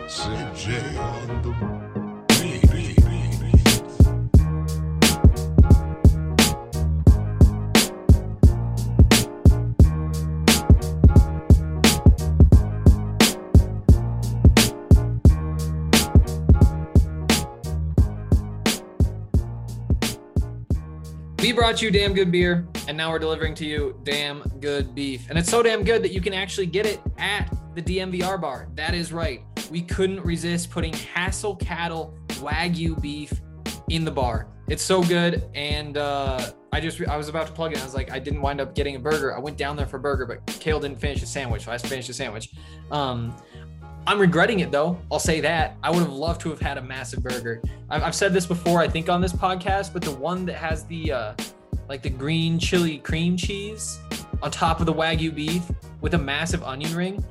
CJ on the beat. We brought you damn good beer, and now we're delivering to you damn good beef. And it's so damn good that you can actually get it at the DMVR bar. That is right. We couldn't resist putting Hassel Cattle Wagyu beef in the bar. It's so good, and I was about to plug it. I was like, I didn't wind up getting a burger. I went down there for a burger, but Kale didn't finish the sandwich, so I finished the sandwich. I'm regretting it though. I'll say that. I would have loved to have had a massive burger. I've said this before, I think on this podcast, but the one that has the like the green chili cream cheese on top of the Wagyu beef with a massive onion ring.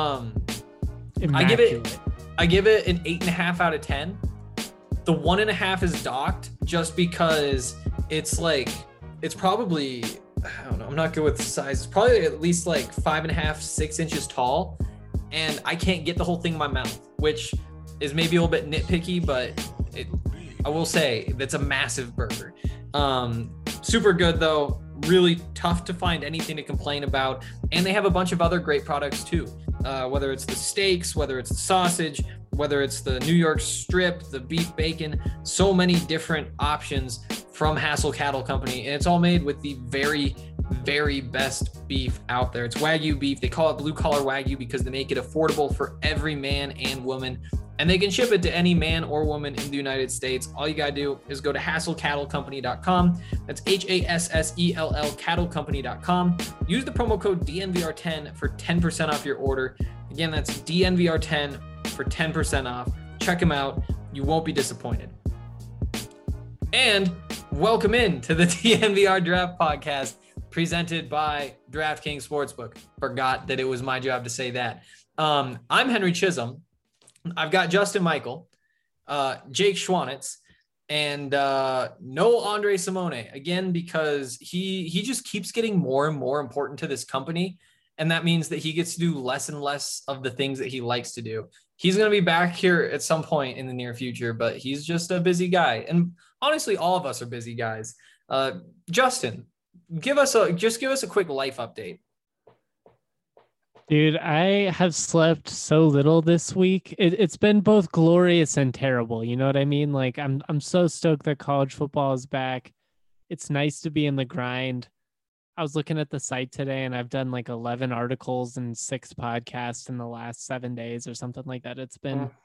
I give it an 8.5 out of 10. The 1.5 is docked just because it's probably, I don't know, I'm not good with the size. It's probably at least like 5.5, 6 inches tall. And I can't get the whole thing in my mouth, which is maybe a little bit nitpicky, but I will say that's a massive burger. Super good though, really tough to find anything to complain about. And they have a bunch of other great products too, whether it's the steaks, whether it's the sausage, whether it's the New York strip, the beef bacon, so many different options from Hassel Cattle Company. And it's all made with the very best beef out there. It's Wagyu beef. They call it blue collar Wagyu because they make it affordable for every man and woman, and they can ship it to any man or woman in the United States. All you gotta do is go to hasselcattlecompany.com. That's HASSELL cattlecompany.com. Use the promo code DNVR10 for 10% off your order. Again, that's DNVR10 for 10% off. Check them out. You won't be disappointed. And welcome in to the DNVR Draft Podcast, presented by DraftKings Sportsbook. Forgot that it was my job to say that. I'm Henry Chisholm. I've got Justin Michael, Jake Schwanitz, and no Andre Simone, again, because he just keeps getting more and more important to this company. And that means that he gets to do less and less of the things that he likes to do. He's going to be back here at some point in the near future, but he's just a busy guy. And honestly, all of us are busy guys. Justin, give us a quick life update. Dude, I have slept so little this week. It's been both glorious and terrible. You know what I mean? Like I'm so stoked that college football is back. It's nice to be in the grind. I was looking at the site today and I've done like 11 articles and 6 podcasts in the last 7 days or something like that. It's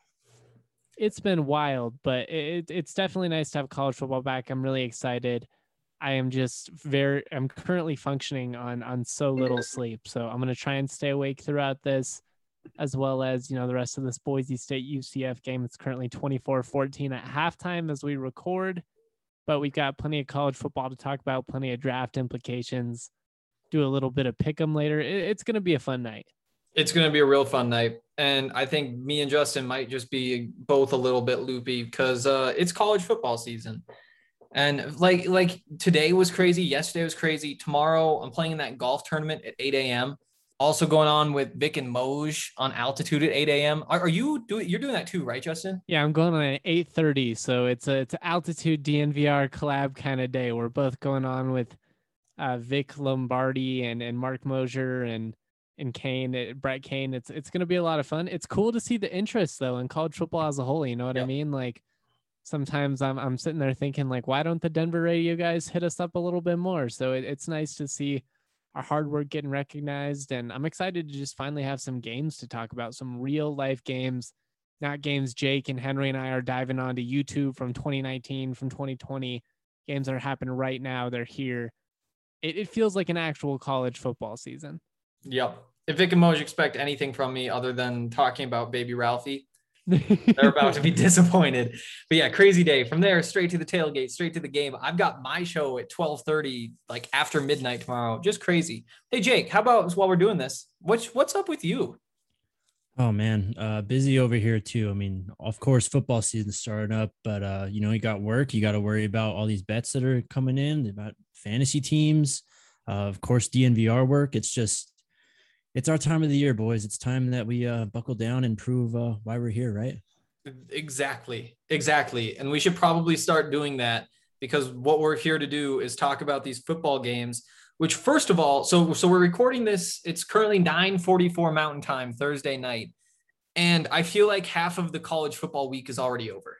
been wild, but it's definitely nice to have college football back. I'm really excited. I'm currently functioning on so little sleep. So I'm going to try and stay awake throughout this, as well as, the rest of this Boise State UCF game. It's currently 24-14 at halftime as we record, but we've got plenty of college football to talk about, plenty of draft implications, do a little bit of pick'em later. It's going to be a fun night. It's going to be a real fun night. And I think me and Justin might just be both a little bit loopy because it's college football season. And like today was crazy. Yesterday was crazy. Tomorrow I'm playing in that golf tournament at 8 a.m. Also going on with Vic and Moj on Altitude at 8 a.m. You're doing that too, right, Justin? Yeah, I'm going on at 8:30. So it's an Altitude DNVR collab kind of day. We're both going on with Vic Lombardi and Mark Mosier and Kane, Brett Kane. It's going to be a lot of fun. It's cool to see the interest though in college football as a whole. You know what I mean? Like, sometimes I'm sitting there thinking, like, why don't the Denver radio guys hit us up a little bit more? So it's nice to see our hard work getting recognized. And I'm excited to just finally have some games to talk about, some real life games, not games Jake and Henry and I are diving onto YouTube from 2019, from 2020, games that are happening right now. They're here. It feels like an actual college football season. Yep. If Vic and Moj expect anything from me other than talking about baby Ralphie, they're about to be disappointed. But yeah, crazy day. From there, straight to the tailgate, straight to the game. I've got my show at 12:30, like after midnight tomorrow. Just crazy. Hey, Jake, how about while we're doing this, what's up with you? Oh man, busy over here too. I mean, of course, football season's starting up, but you got work. You got to worry about all these bets that are coming in, about fantasy teams. Of course, DNVR work. It's just It's our time of the year, boys. It's time that we buckle down and prove why we're here, right? Exactly. And we should probably start doing that, because what we're here to do is talk about these football games, which, first of all, so we're recording this. It's currently 9:44 Mountain Time, Thursday night. And I feel like half of the college football week is already over.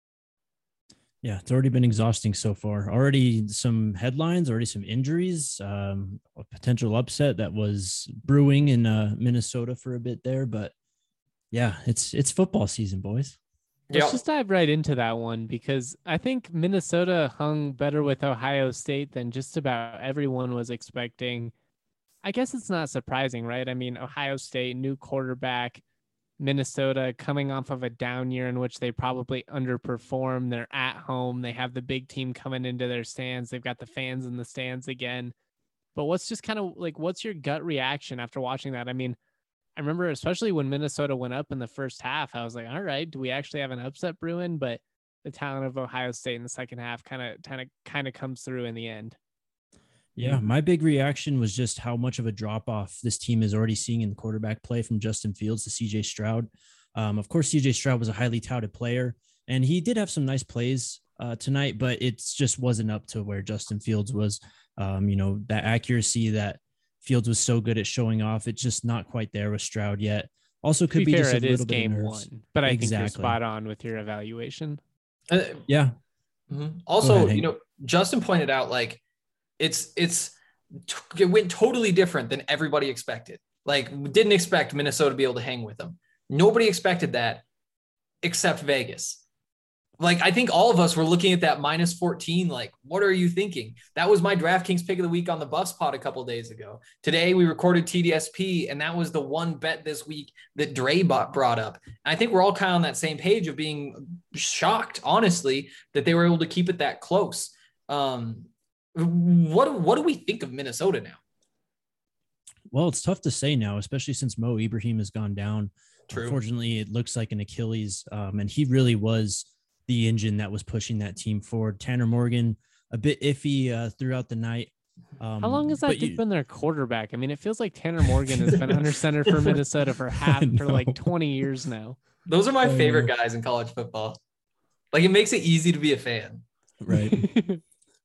Yeah, it's already been exhausting so far. Already some headlines, already some injuries, a potential upset that was brewing in Minnesota for a bit there. But yeah, it's football season, boys. Let's just dive right into that one, because I think Minnesota hung better with Ohio State than just about everyone was expecting. I guess it's not surprising, right? I mean, Ohio State, new quarterback, Minnesota coming off of a down year in which they probably underperformed. They're at home. They have the big team coming into their stands. They've got the fans in the stands again. But what's just kind of like, what's your gut reaction after watching that? I mean, I remember especially when Minnesota went up in the first half, I was like, all right, do we actually have an upset brewing? But the talent of Ohio State in the second half kind of comes through in the end. Yeah, my big reaction was just how much of a drop off this team is already seeing in the quarterback play, from Justin Fields to CJ Stroud. Of course, CJ Stroud was a highly touted player, and he did have some nice plays tonight, but it just wasn't up to where Justin Fields was. That accuracy that Fields was so good at showing off, it's just not quite there with Stroud yet. Also, could be fair, just a it little is bit game of nerves. one, but I think you're Exactly. spot on with your evaluation. Yeah. Mm-hmm. Also, Justin pointed out, like, it went totally different than everybody expected. Like, we didn't expect Minnesota to be able to hang with them. Nobody expected that except Vegas. Like, I think all of us were looking at that -14. Like, what are you thinking? That was my DraftKings pick of the week on the Buffs pod a couple of days ago. Today we recorded TDSP, and that was the one bet this week that Dre brought up. And I think we're all kind of on that same page of being shocked, honestly, that they were able to keep it that close. What do we think of Minnesota now? Well, it's tough to say now, especially since Mo Ibrahim has gone down. True. Unfortunately, it looks like an Achilles, and he really was the engine that was pushing that team forward. Tanner Morgan, a bit iffy throughout the night. How long has that dude been their quarterback? I mean, it feels like Tanner Morgan has been under center for Minnesota for like 20 years now. Those are my favorite guys in college football. Like, it makes it easy to be a fan. Right.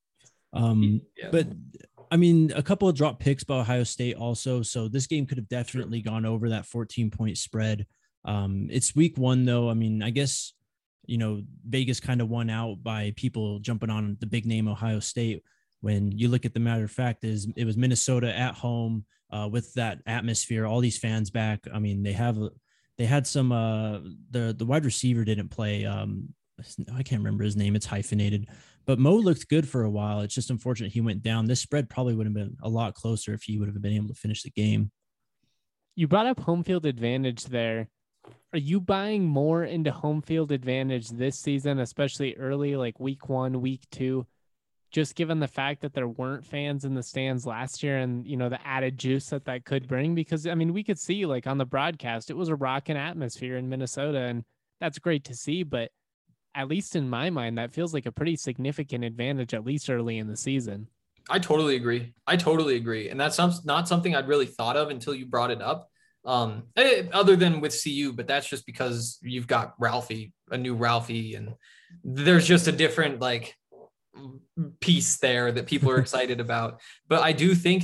But I mean, a couple of drop picks by Ohio State also. So this game could have definitely gone over that 14-point spread. It's week one, though. I mean, I guess, Vegas kind of won out by people jumping on the big name Ohio State. When you look at the matter of fact, it was Minnesota at home with that atmosphere, all these fans back. I mean, they had some, the wide receiver didn't play. I can't remember his name. It's hyphenated, but Mo looked good for a while. It's just unfortunate he went down. This spread probably would have been a lot closer if he would have been able to finish the game. You brought up home field advantage there. Are you buying more into home field advantage this season, especially early, like week 1, week 2, just given the fact that there weren't fans in the stands last year and, the added juice that could bring? Because, I mean, we could see, like, on the broadcast, it was a rocking atmosphere in Minnesota, and that's great to see. But at least in my mind, that feels like a pretty significant advantage, at least early in the season. I totally agree. And that's not something I'd really thought of until you brought it up. Other than with CU, but that's just because you've got a new Ralphie, and there's just a different, like, piece there that people are excited about. But I do think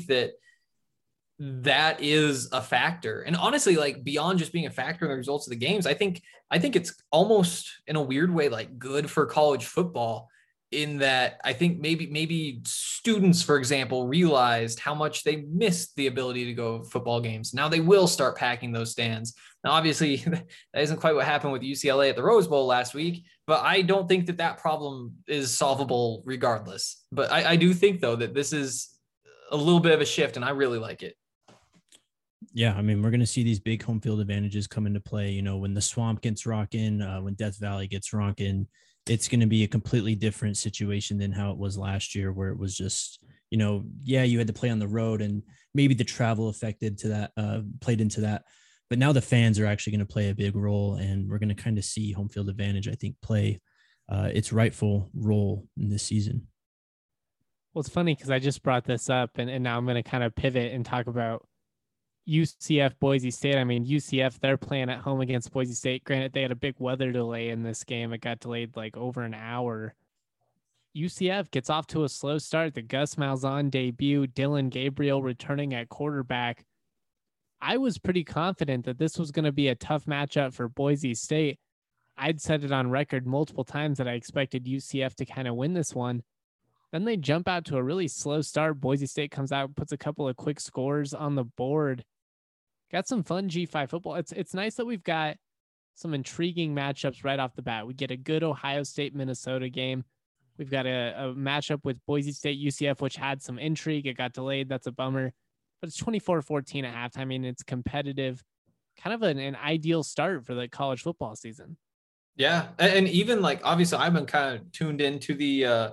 that is a factor. And honestly, like, beyond just being a factor in the results of the games, I think it's almost, in a weird way, like, good for college football, in that I think maybe students, for example, realized how much they missed the ability to go to football games. Now they will start packing those stands. Now, obviously, that isn't quite what happened with UCLA at the Rose Bowl last week, but I don't think that problem is solvable regardless. But I do think, though, that this is a little bit of a shift, and I really like it. Yeah, I mean, we're going to see these big home field advantages come into play. When the Swamp gets rocking, when Death Valley gets rocking, it's going to be a completely different situation than how it was last year, where it was just, you had to play on the road, and maybe the travel affected to that, played into that. But now the fans are actually going to play a big role, and we're going to kind of see home field advantage, I think, play its rightful role in this season. Well, it's funny because I just brought this up, and now I'm going to kind of pivot and talk about, UCF Boise State. I mean, UCF, they're playing at home against Boise State. Granted, they had a big weather delay in this game. It got delayed like over an hour. UCF gets off to a slow start. The Gus Malzahn debut, Dylan Gabriel returning at quarterback. I was pretty confident that this was going to be a tough matchup for Boise State. I'd said it on record multiple times that I expected UCF to kind of win this one. Then they jump out to a really slow start. Boise State comes out, puts a couple of quick scores on the board. Got some fun G5 football. It's nice that we've got some intriguing matchups right off the bat. We get a good Ohio State Minnesota game. We've got a matchup with Boise State UCF, which had some intrigue. It got delayed. That's a bummer. But it's 24-14 at halftime. I mean, it's competitive. Kind of an ideal start for the college football season. Yeah. And even like, obviously, I've been kind of tuned into the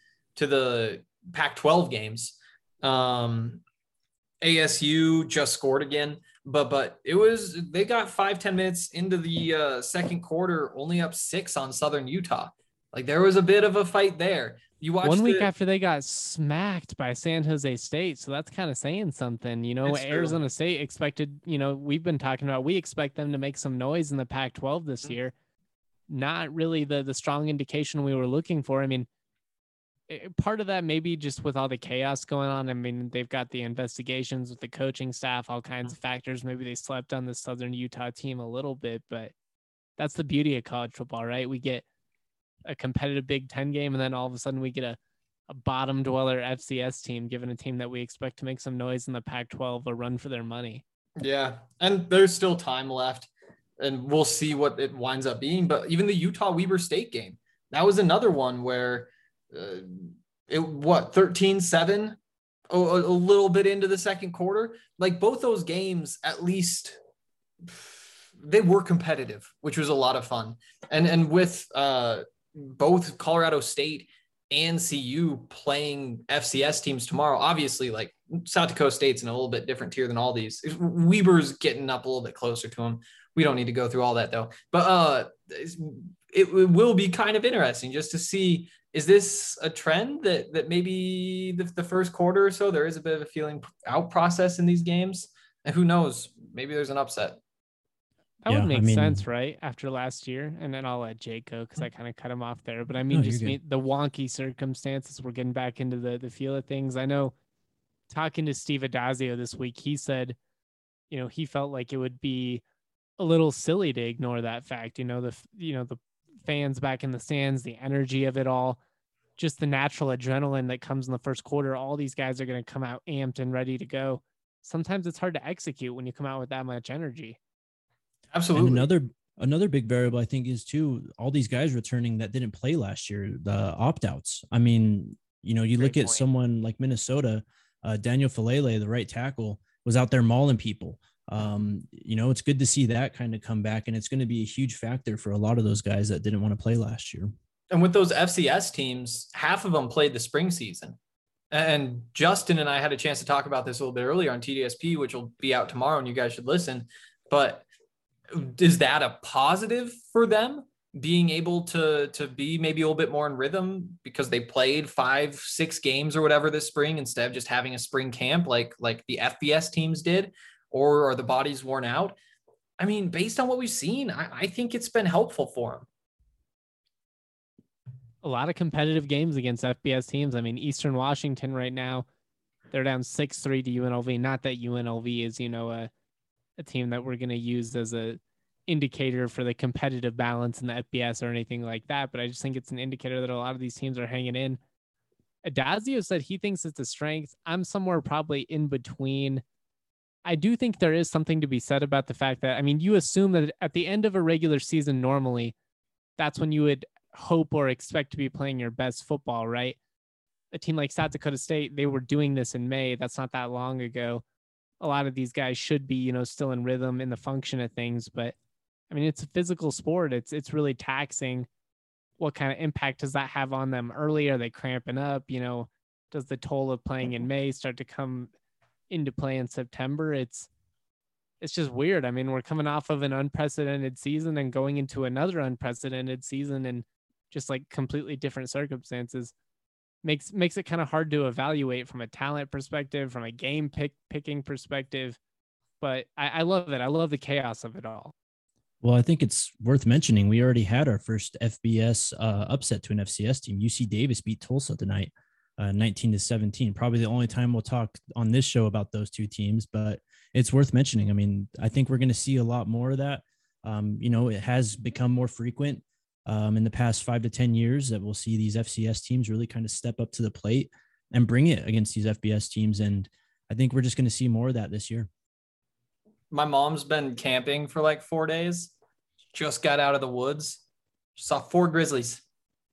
Pac-12 games. ASU just scored again. But they got 5-10 minutes into the second quarter, only up 6 on Southern Utah. Like there was a bit of a fight there. You watched 1 week after they got smacked by San Jose State. So that's kind of saying something, Arizona State expected, we've been talking about, we expect them to make some noise in the Pac-12 this year. Not really the strong indication we were looking for. I mean, part of that maybe just with all the chaos going on. I mean, they've got the investigations with the coaching staff, all kinds of factors. Maybe they slept on the Southern Utah team a little bit, but that's the beauty of college football, right? We get a competitive Big Ten game, and then all of a sudden we get a bottom dweller FCS team, given a team that we expect to make some noise in the Pac-12, a run for their money. Yeah, and there's still time left, and we'll see what it winds up being. But even the Utah-Weber State game, that was another one where 13-7, a little bit into the second quarter. Like both those games, at least they were competitive, which was a lot of fun. And with both Colorado State and CU playing FCS teams tomorrow, obviously like South Dakota State's in a little bit different tier than all these. Weber's getting up a little bit closer to them. We don't need to go through all that though, but it will be kind of interesting just to see, is this a trend that maybe the first quarter or so, there is a bit of a feeling out process in these games, and who knows, maybe there's an upset. That would make sense, right? After last year. And then I'll let Jake go because I kind of cut him off there. But I mean, the wonky circumstances, we're getting back into the feel of things. I know talking to Steve Adazio this week, he said, he felt like it would be a little silly to ignore that fact. The fans back in the stands, the energy of it all, just the natural adrenaline that comes in the first quarter. All these guys are going to come out amped and ready to go. Sometimes it's hard to execute when you come out with that much energy. Absolutely. And another big variable, I think, is too, all these guys returning that didn't play last year, the opt-outs. I mean, you look at someone like Minnesota, Daniel Falele, the right tackle, was out there mauling people. It's good to see that kind of come back, and it's going to be a huge factor for a lot of those guys that didn't want to play last year. And with those FCS teams, half of them played the spring season. And Justin and I had a chance to talk about this a little bit earlier on TDSP, which will be out tomorrow, and you guys should listen. But is that a positive for them, being able to be maybe a little bit more in rhythm because they played 5-6 games or whatever this spring instead of just having a spring camp like the FBS teams did? Or are the bodies worn out? I mean, based on what we've seen, I think it's been helpful for them. A lot of competitive games against FBS teams. I mean, Eastern Washington right now, they're down 6-3 to UNLV. Not that UNLV is, a team that we're going to use as a indicator for the competitive balance in the FBS or anything like that. But I just think it's an indicator that a lot of these teams are hanging in. Adazio said he thinks it's a strength. I'm somewhere probably in between. I do think there is something to be said about the fact that, I mean, you assume that at the end of a regular season, normally that's when you would hope or expect to be playing your best football, right? A team like South Dakota State, they were doing this in May. That's not that long ago. A lot of these guys should be, still in rhythm in the function of things, but I mean, it's a physical sport. It's really taxing. What kind of impact does that have on them early? Are they cramping up? Does the toll of playing in May start to come into play in September? It's just weird. I mean, we're coming off of an unprecedented season and going into another unprecedented season and just like completely different circumstances. Makes it kind of hard to evaluate from a talent perspective, from a game picking perspective. but I love it. I love the chaos of it all. Well, I think it's worth mentioning. We already had our first FBS upset to an FCS team. UC Davis beat Tulsa tonight, 19-17. Probably the only time we'll talk on this show about those two teams, but it's worth mentioning. I mean, I think we're going to see a lot more of that. It has become more frequent in the past 5 to 10 years that we'll see these FCS teams really kind of step up to the plate and bring it against these FBS teams. And I think we're just going to see more of that this year. My mom's been camping for like 4 days. Just got out of the woods. Saw 4 grizzlies.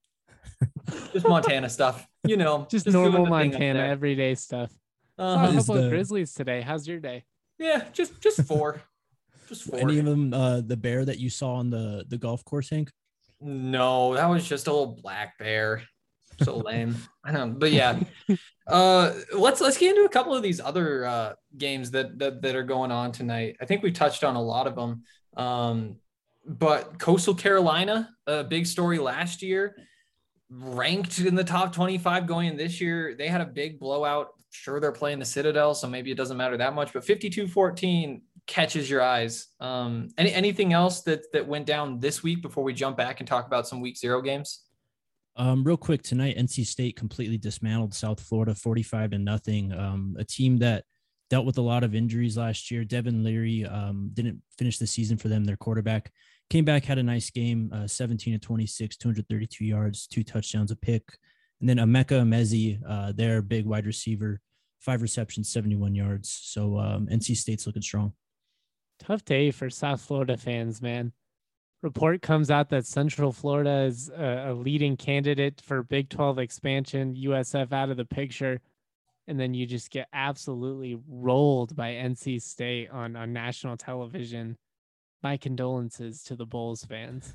Just Montana stuff, just normal Montana everyday stuff. Saw a couple of grizzlies today. How's your day? Yeah, just 4. Just 4. Any of them the bear that you saw on the golf course, Hank? No, that was just a little black bear. So lame. I know, but yeah. Let's get into a couple of these other games that are going on tonight. I think we touched on a lot of them. But Coastal Carolina, a big story last year, ranked in the top 25 going in this year. They had a big blowout. Sure, they're playing the Citadel, so maybe it doesn't matter that much, but 52-14 catches your eyes. Anything else that went down this week before we jump back and talk about some week 0 games? Real quick tonight, NC State completely dismantled South Florida 45-0. A team that dealt with a lot of injuries last year. Devin Leary didn't finish the season for them. Their quarterback came back, had a nice game, 17-26, 232 yards, 2 touchdowns, a pick. And then Emeka Emezi, their big wide receiver, 5 receptions, 71 yards. So NC State's looking strong. Tough day for South Florida fans, man. Report comes out that Central Florida is a leading candidate for Big 12 expansion, USF out of the picture. And then you just get absolutely rolled by NC State on national television. My condolences to the Bulls fans.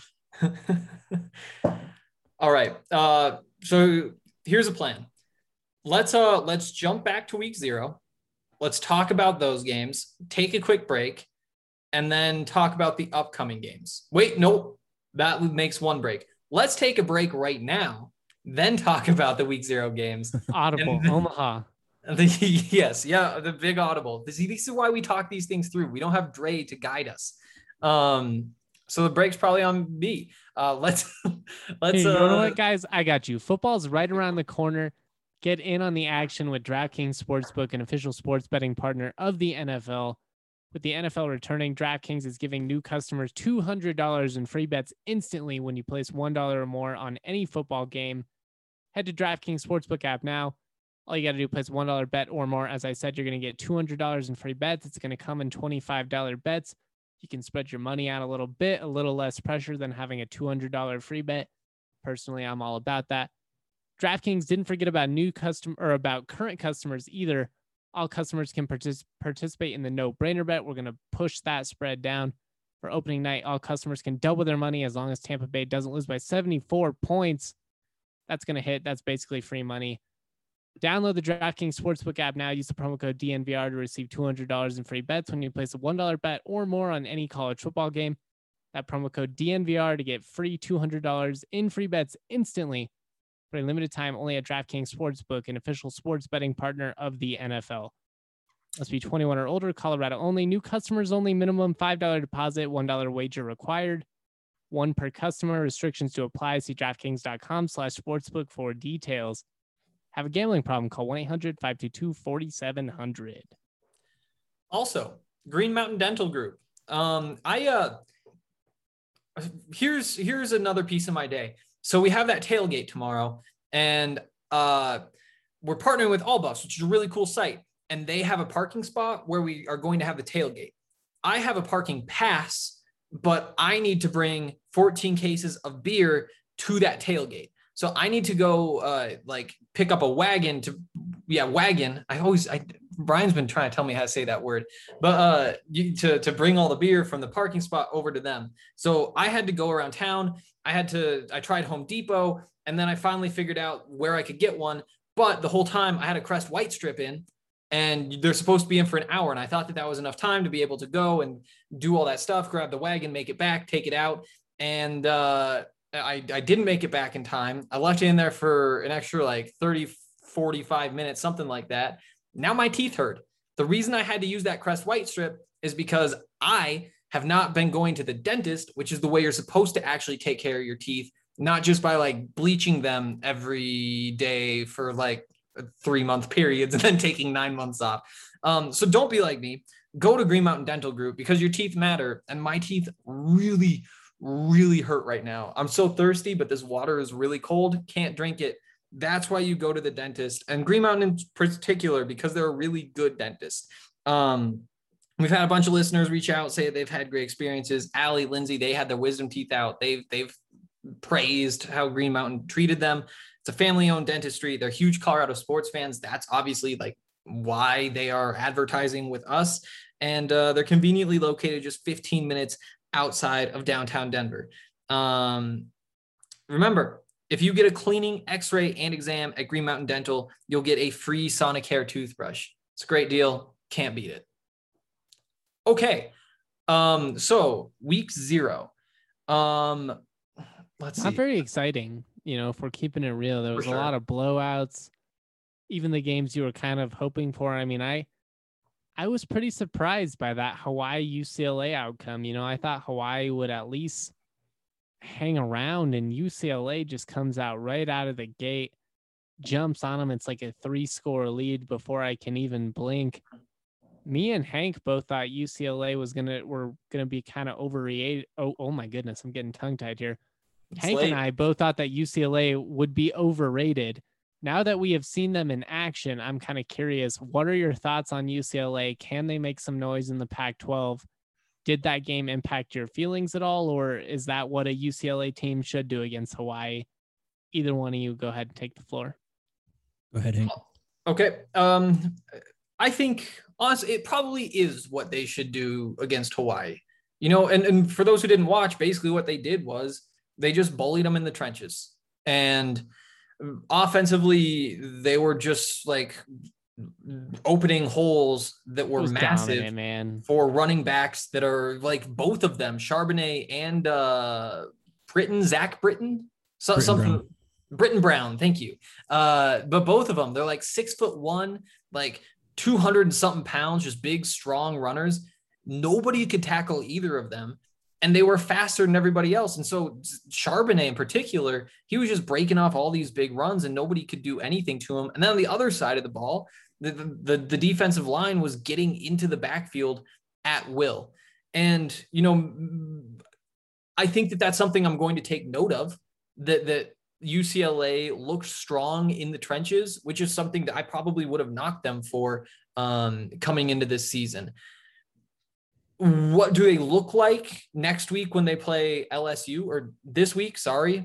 All right. So here's a plan. Let's jump back to week 0. Let's talk about those games, take a quick break, and then talk about the upcoming games. Wait, nope. That makes one break. Let's take a break right now, then talk about the week 0 games. Audible, Omaha. Yes. Yeah. The big audible. This is why we talk these things through. We don't have Dre to guide us. So the break's probably on me. Let's, you know what, guys, I got you. Football's right around the corner. Get in on the action with DraftKings Sportsbook, an official sports betting partner of the NFL. With the NFL returning, DraftKings is giving new customers $200 in free bets instantly when you place $1 or more on any football game. Head to DraftKings Sportsbook app now. All you got to do is place $1 bet or more. As I said, you're going to get $200 in free bets. It's going to come in $25 bets. You can spread your money out a little bit, a little less pressure than having a $200 free bet. Personally, I'm all about that. DraftKings didn't forget about about current customers either. All customers can participate in the no-brainer bet. We're going to push that spread down. For opening night, all customers can double their money as long as Tampa Bay doesn't lose by 74 points. That's going to hit. That's basically free money. Download the DraftKings Sportsbook app now. Use the promo code DNVR to receive $200 in free bets when you place a $1 bet or more on any college football game. That promo code DNVR to get free $200 in free bets instantly for a limited time only at DraftKings Sportsbook, an official sports betting partner of the NFL. Must be 21 or older, Colorado only. New customers only. Minimum $5 deposit, $1 wager required. 1 per customer. Restrictions to apply. See DraftKings.com/sportsbook for details. Have a gambling problem? Call 1-800-522-4700. Also, Green Mountain Dental Group. Here's another piece of my day. So we have that tailgate tomorrow, and we're partnering with All Buffs, which is a really cool site. And they have a parking spot where we are going to have the tailgate. I have a parking pass, but I need to bring 14 cases of beer to that tailgate. So I need to go pick up a wagon wagon. Brian's been trying to tell me how to say that word, but to bring all the beer from the parking spot over to them. So I had to go around town. I tried Home Depot, and then I finally figured out where I could get one. But the whole time I had a Crest White Strip in, and they're supposed to be in for an hour. And I thought that was enough time to be able to go and do all that stuff, grab the wagon, make it back, take it out. And I didn't make it back in time. I left it in there for an extra 30, 45 minutes, something like that. Now my teeth hurt. The reason I had to use that Crest White strip is because I have not been going to the dentist, which is the way you're supposed to actually take care of your teeth, not just by like bleaching them every day for like 3-month periods and then taking 9 months off. So don't be like me. Go to Green Mountain Dental Group because your teeth matter. And my teeth really, really hurt right now. I'm so thirsty, but this water is really cold. Can't drink it. That's why you go to the dentist, and Green Mountain in particular, because they're a really good dentist. We've had a bunch of listeners reach out, say they've had great experiences. Allie, Lindsay, they had their wisdom teeth out. They've praised how Green Mountain treated them. It's a family-owned dentistry. They're huge Colorado sports fans. That's obviously like why they are advertising with us. And they're conveniently located just 15 minutes outside of downtown Denver. Remember, if you get a cleaning, x-ray, and exam at Green Mountain Dental, you'll get a free Sonicare toothbrush. It's a great deal. Can't beat it. Okay. So week 0. Let's see. Not very exciting, if we're keeping it real. There was a lot of blowouts, even the games you were kind of hoping for. I mean, I was pretty surprised by that Hawaii UCLA outcome. I thought Hawaii would at least hang around, and UCLA just comes out right out of the gate, jumps on them. It's like a 3-score lead before I can even blink. Me and Hank both thought UCLA were gonna be kind of overrated. Oh my goodness, I'm getting tongue tied here. Hank and I both thought that UCLA would be overrated. Now that we have seen them in action, I'm kind of curious. What are your thoughts on UCLA? Can they make some noise in the Pac-12? Did that game impact your feelings at all, or is that what a UCLA team should do against Hawaii? Either one of you, go ahead and take the floor. Go ahead, Hank. Okay. I think, honestly, it probably is what they should do against Hawaii. And for those who didn't watch, basically what they did was they just bullied them in the trenches. And offensively, they were just like opening holes that were massive for running backs that are like both of them, Charbonnet and Zach Britton, Britton Brown. Thank you. But both of them, they're like 6'1", like 200 and something pounds, just big, strong runners. Nobody could tackle either of them. And they were faster than everybody else. And so Charbonnet in particular, he was just breaking off all these big runs and nobody could do anything to him. And then on the other side of the ball, the defensive line was getting into the backfield at will. And, I think that that's something I'm going to take note of, that UCLA looked strong in the trenches, which is something that I probably would have knocked them for coming into this season. What do they look like next week when they play LSU, or this week?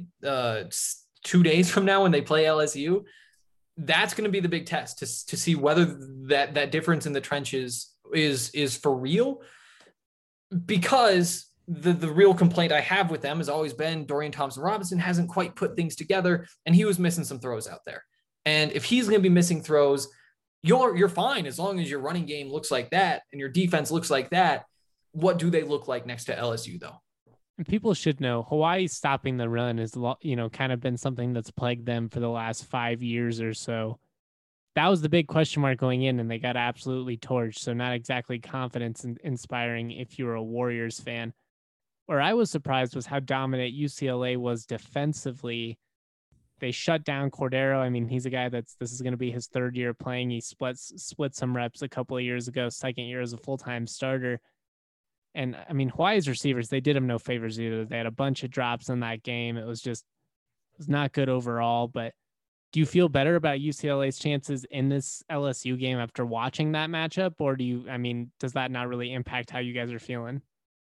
2 days from now when they play LSU? That's going to be the big test to see whether that difference in the trenches is for real. Because the real complaint I have with them has always been Dorian Thompson-Robinson hasn't quite put things together, and he was missing some throws out there. And if he's going to be missing throws, you're fine as long as your running game looks like that and your defense looks like that. What do they look like next to LSU, though? People should know Hawaii stopping the run is, kind of been something that's plagued them for the last 5 years or so. That was the big question mark going in, and they got absolutely torched. So not exactly confidence inspiring if you're a Warriors fan. Where I was surprised was how dominant UCLA was defensively. They shut down Cordero. I mean, he's a guy this is going to be his 3rd year playing. He split some reps a couple of years ago, 2nd year as a full-time starter. And I mean, Hawaii's receivers, they did him no favors either. They had a bunch of drops in that game. It was not good overall. But do you feel better about UCLA's chances in this LSU game after watching that matchup? Or does that not really impact how you guys are feeling?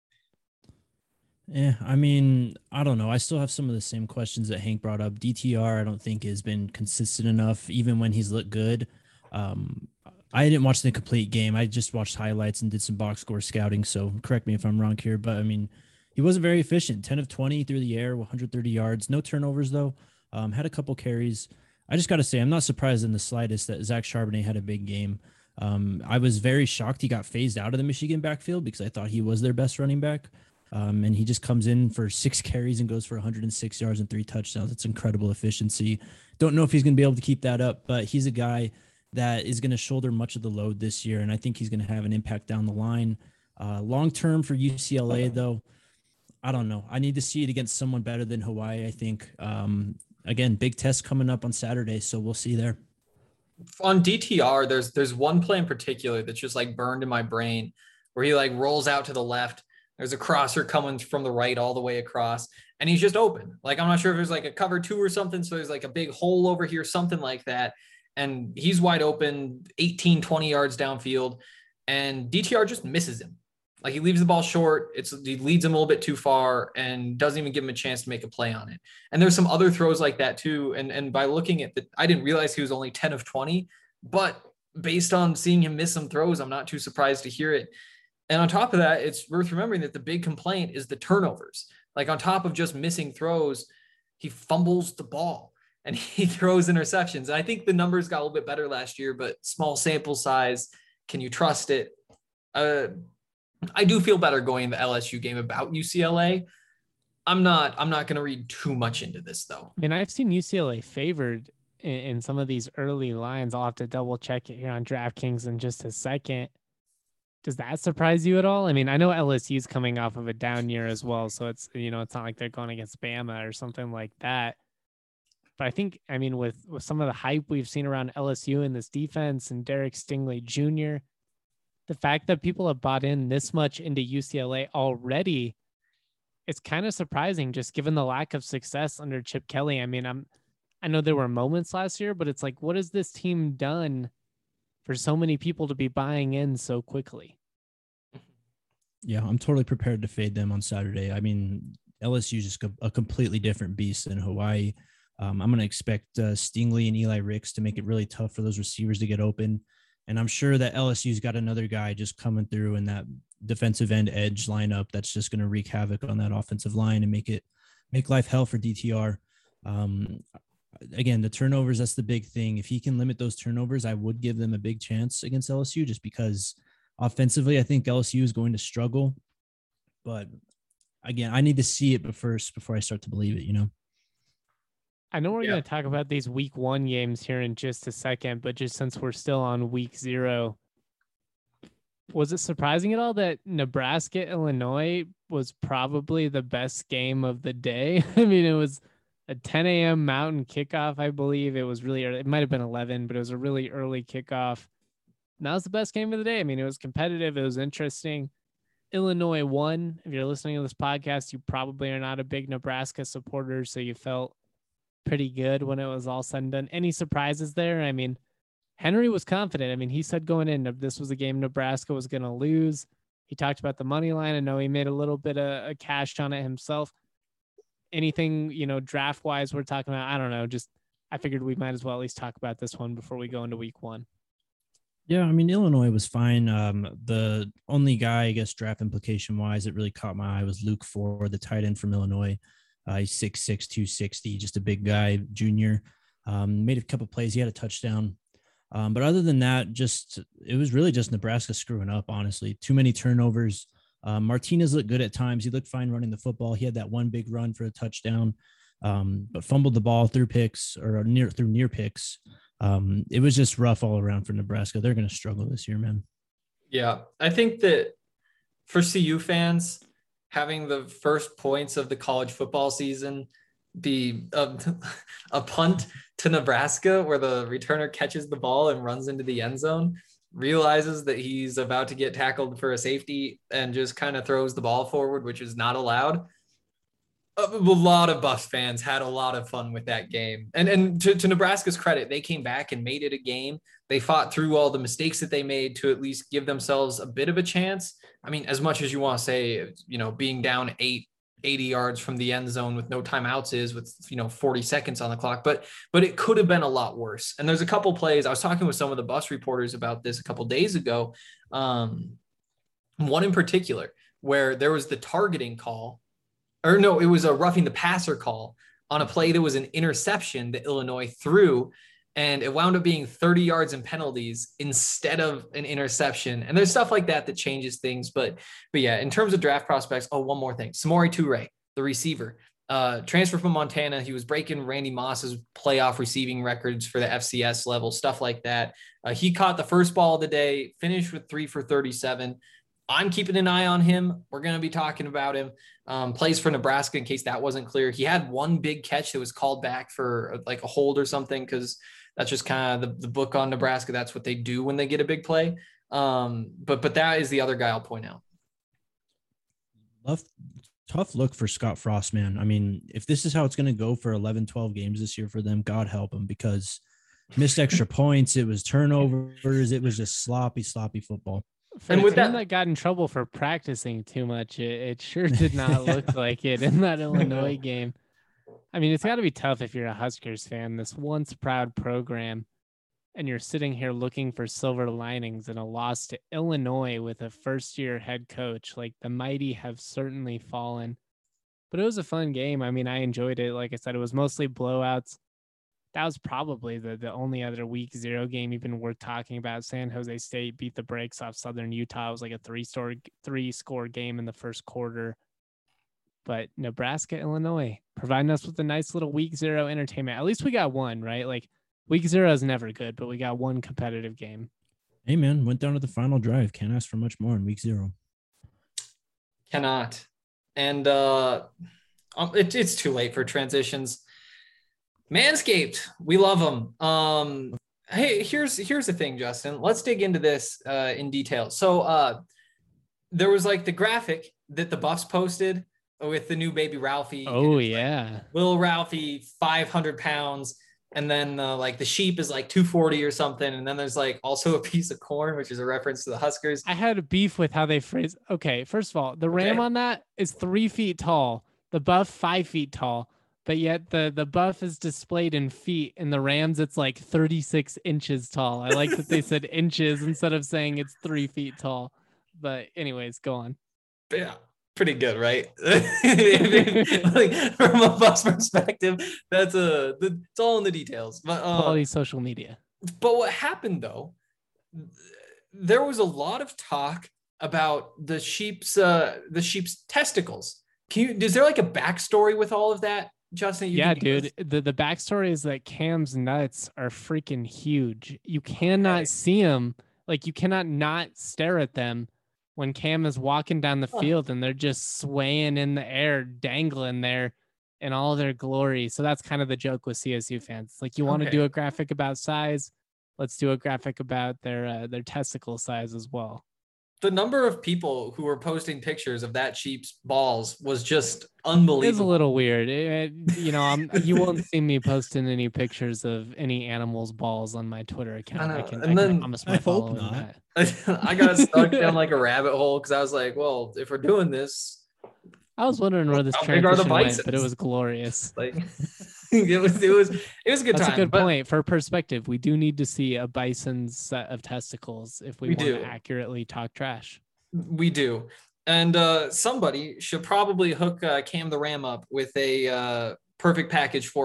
Yeah, I don't know. I still have some of the same questions that Hank brought up. DTR, I don't think has been consistent enough, even when he's looked good. I didn't watch the complete game. I just watched highlights and did some box score scouting. So correct me if I'm wrong here, but he wasn't very efficient. 10 of 20 through the air, 130 yards, no turnovers though. Had a couple carries. I just got to say, I'm not surprised in the slightest that Zach Charbonnet had a big game. I was very shocked he got phased out of the Michigan backfield because I thought he was their best running back. And he just comes in for 6 carries and goes for 106 yards and 3 touchdowns. It's incredible efficiency. Don't know if he's going to be able to keep that up, but he's a guy that is going to shoulder much of the load this year, and I think he's going to have an impact down the line. Long term for UCLA, though, I don't know. I need to see it against someone better than Hawaii, I think. Again, big test coming up on Saturday, so we'll see there. On DTR, there's one play in particular that's just like burned in my brain where he like rolls out to the left. There's a crosser coming from the right all the way across, and he's just open. Like, I'm not sure if there's like a cover 2 or something. So there's like a big hole over here, something like that. And he's wide open 18, 20 yards downfield, and DTR just misses him. Like, he leaves the ball short. He leads him a little bit too far and doesn't even give him a chance to make a play on it. And there's some other throws like that too. And by looking at I didn't realize he was only 10 of 20, but based on seeing him miss some throws, I'm not too surprised to hear it. And on top of that, it's worth remembering that the big complaint is the turnovers. Like, on top of just missing throws, he fumbles the ball and he throws interceptions. And I think the numbers got a little bit better last year, but small sample size. Can you trust it? I do feel better going the LSU game about UCLA. I'm not going to read too much into this, though. I mean, I've seen UCLA favored in some of these early lines. I'll have to double check it here on DraftKings in just a second. Does that surprise you at all? I mean, I know LSU's coming off of a down year as well, so it's not like they're going against Bama or something like that. But I think, I mean, with some of the hype we've seen around LSU and this defense and Derek Stingley Jr., the fact that people have bought in this much into UCLA already, it's kind of surprising just given the lack of success under Chip Kelly. I mean, I know there were moments last year, but it's like, what has this team done for so many people to be buying in so quickly? Yeah, I'm totally prepared to fade them on Saturday. I mean, LSU is just a completely different beast than Hawaii. I'm going to expect Stingley and Eli Ricks to make it really tough for those receivers to get open. And I'm sure that LSU's got another guy just coming through in that defensive end edge lineup that's just going to wreak havoc on that offensive line and make life hell for DTR. Again, the turnovers, that's the big thing. If he can limit those turnovers, I would give them a big chance against LSU just because offensively, I think LSU is going to struggle. But again, I need to see it first before I start to believe it, I know we're going to talk about these week 1 games here in just a second, but just since we're still on week 0, was it surprising at all that Nebraska, Illinois was probably the best game of the day? I mean, it was a 10 a.m. Mountain kickoff, I believe. It was really early. It might have been 11, but it was a really early kickoff. And that was the best game of the day. I mean, it was competitive. It was interesting. Illinois won. If you're listening to this podcast, you probably are not a big Nebraska supporter, so you felt pretty good when it was all said and done. Any surprises there? I mean, Henry was confident. I mean, he said going in, this was a game Nebraska was going to lose. He talked about the money line. I know he made a little bit of cash on it himself. Anything, draft wise we're talking about? I don't know. Just, I figured we might as well at least talk about this one before we go into week 1. Yeah, I mean, Illinois was fine. The only guy, I guess, draft implication wise, that really caught my eye was Luke Ford, the tight end from Illinois. He's 6'6", 260, just a big guy, junior. Made a couple plays. He had a touchdown. But other than that, it was really just Nebraska screwing up, honestly. Too many turnovers. Martinez looked good at times. He looked fine running the football. He had that one big run for a touchdown, but fumbled the ball through near picks. It was just rough all around for Nebraska. They're going to struggle this year, man. Yeah, I think that for CU fans, having the first points of the college football season be a punt to Nebraska where the returner catches the ball and runs into the end zone, realizes that he's about to get tackled for a safety and just kind of throws the ball forward, which is not allowed. A lot of Buffs fans had a lot of fun with that game. And to Nebraska's credit, they came back and made it a game. They fought through all the mistakes that they made to at least give themselves a bit of a chance. I mean, as much as you want to say, being down 80 yards from the end zone with no timeouts is with, 40 seconds on the clock, but it could have been a lot worse. And there's a couple plays. I was talking with some of the Buffs reporters about this a couple days ago. One in particular where there was the targeting call, or no, it was a roughing the passer call on a play that was an interception that Illinois threw, and it wound up being 30 yards in penalties instead of an interception. And there's stuff like that changes things. But yeah, in terms of draft prospects, one more thing. Samori Toure, the receiver, transfer from Montana. He was breaking Randy Moss's playoff receiving records for the FCS level, stuff like that. He caught the first ball of the day, finished with 3 for 37. I'm keeping an eye on him. We're going to be talking about him. Plays for Nebraska in case that wasn't clear. He had one big catch that was called back for like a hold or something, because that's just kind of the book on Nebraska. That's what they do when they get a big play. But that is the other guy I'll point out. Tough look for Scott Frost, man. I mean, if this is how it's going to go for 11, 12 games this year for them, God help them, because missed extra points, it was turnovers, it was just sloppy football. For and with that got in trouble for practicing too much, it sure did not look like it in that Illinois game. I mean, it's got to be tough if you're a Huskers fan, this once proud program, and you're sitting here looking for silver linings in a loss to Illinois with a first-year head coach. Like, the mighty have certainly fallen. But it was a fun game. I mean, I enjoyed it. Like I said, it was mostly blowouts. That was probably the only other week 0 game even worth talking about. San Jose State beat the brakes off Southern Utah. It was like a 3-score game in the first quarter. But Nebraska, Illinois, providing us with a nice little week 0 entertainment. At least we got one, right? Like, week 0 is never good, but we got one competitive game. Hey, man, went down to the final drive. Can't ask for much more in week 0. Cannot. And it's too late for transitions. Manscaped, we love them. Hey, here's the thing, Justin. Let's dig into this in detail. So there was like the graphic that the Buffs posted with the new baby Ralphie. Oh, yeah. Like, Will Ralphie, 500 pounds. And then like the sheep is like 240 or something. And then there's like also a piece of corn, which is a reference to the Huskers. I had a beef with how they phrase. Okay, first of all, the ram on that is 3 feet tall. The buff 5 feet tall. But yet the buff is displayed in feet. And the Rams, it's like 36 inches tall. I like that they said inches instead of saying it's 3 feet tall. But anyways, go on. Yeah. Pretty good, right? Like, from a Buffs perspective, it's all in the details. But quality social media. But what happened though? There was a lot of talk about the sheep's testicles. Is there like a backstory with all of that, Justin? Yeah, dude. The backstory is that Cam's nuts are freaking huge. You cannot see them. Like, you cannot not stare at them when Cam is walking down the field and they're just swaying in the air, dangling there in all their glory. So that's kind of the joke with CSU fans. It's like, you want to do a graphic about size, let's do a graphic about their testicle size as well. The number of people who were posting pictures of that sheep's balls was just unbelievable. It's a little weird. You won't see me posting any pictures of any animal's balls on my Twitter account. I promise my following that. I got stuck down like a rabbit hole because I was like, well, if we're doing this, I was wondering where this transition went, but it was glorious. Like, it was a good time. That's a good point. For perspective, we do need to see a bison's set of testicles if we want to accurately talk trash. We do. And somebody should probably hook Cam the Ram up with a perfect package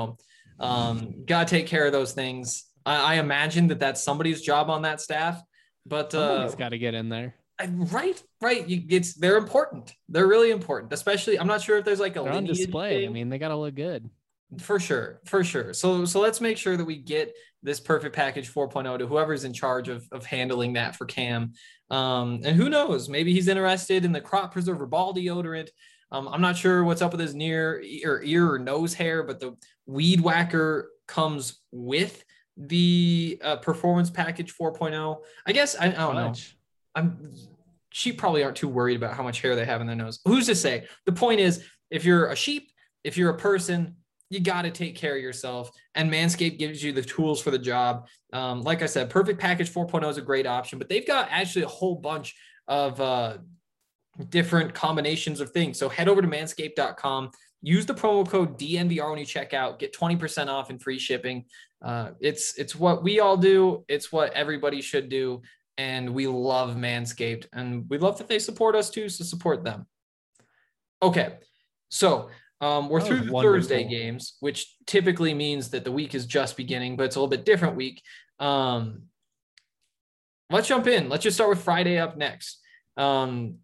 4.0. Got to take care of those things. I imagine that's somebody's job on that staff. But somebody's got to get in there. Right. They're important. They're really important. Especially, I'm not sure if there's like they're on display. I mean, they got to look good. For sure. So let's make sure that we get this perfect package 4.0 to whoever's in charge of handling that for Cam. And who knows, maybe he's interested in the crop preserver ball deodorant. I'm not sure what's up with his ear or nose hair, but the Weed Whacker comes with the performance package 4.0. I guess I don't know. Sheep probably aren't too worried about how much hair they have in their nose. Who's to say? The point is, if you're a sheep, if you're a person, you got to take care of yourself, and Manscaped gives you the tools for the job. Like I said, Perfect Package 4.0 is a great option, but they've got actually a whole bunch of different combinations of things. So head over to manscaped.com, use the promo code DNVR when you check out, get 20% off and free shipping. It's what we all do. It's what everybody should do. And we love Manscaped, and we love that they support us too. So support them. Okay. So we're through the Thursday games, which typically means that the week is just beginning, but it's a little bit different week. Let's jump in. Let's just start with Friday up next.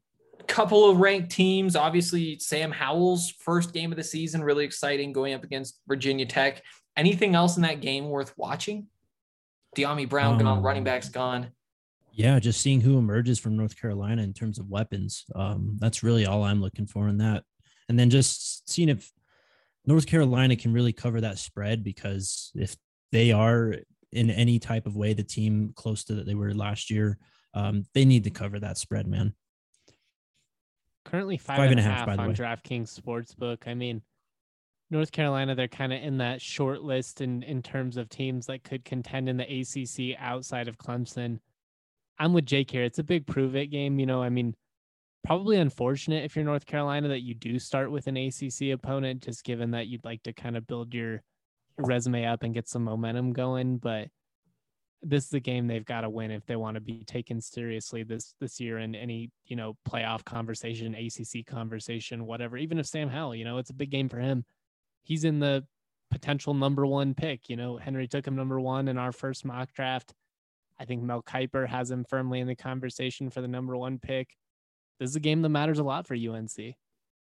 couple of ranked teams. Obviously, Sam Howell's first game of the season, really exciting, going up against Virginia Tech. Anything else in that game worth watching? De'Ami Brown gone, running backs gone. Yeah, just seeing who emerges from North Carolina in terms of weapons. That's really all I'm looking for in that. And then just seeing if North Carolina can really cover that spread, because if they are in any type of way the team close to that they were last year, they need to cover that spread, man. Currently 5.5 on DraftKings Sportsbook. I mean, North Carolina, they're kind of in that short list in terms of teams that could contend in the ACC outside of Clemson. I'm with Jake here. It's a big prove it game. I mean, probably unfortunate if you're North Carolina that you do start with an ACC opponent, just given that you'd like to kind of build your resume up and get some momentum going. But this is the game they've got to win if they want to be taken seriously this year in any, playoff conversation, ACC conversation, whatever. Even if Sam Howell, it's a big game for him. He's in the potential number one pick. Henry took him number one in our first mock draft. I think Mel Kiper has him firmly in the conversation for the number one pick. This is a game that matters a lot for UNC.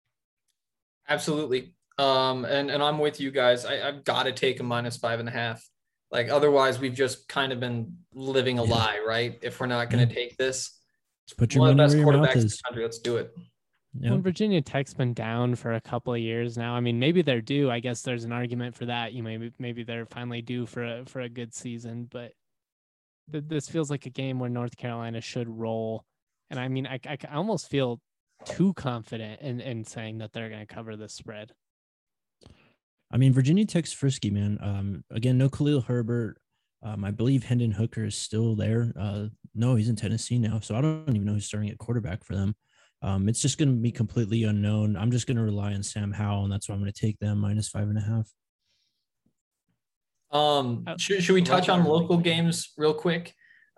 Absolutely. And I'm with you guys. I've got to take a -5.5. Like, otherwise we've just kind of been living a lie, right? If we're not going to take this, put your money where your mouth is. In the country. Let's do it. Yep. When Virginia Tech's been down for a couple of years now, I mean, maybe they're due. I guess there's an argument for that. Maybe they're finally due for a good season, but this feels like a game where North Carolina should roll. And I mean, I almost feel too confident in saying that they're going to cover this spread. I mean, Virginia Tech's frisky, man. Again, no Khalil Herbert. I believe Hendon Hooker is still there. No, he's in Tennessee now. So I don't even know who's starting at quarterback for them. It's just going to be completely unknown. I'm just going to rely on Sam Howell, and that's why I'm going to take them -5.5. Should we touch on local games real quick?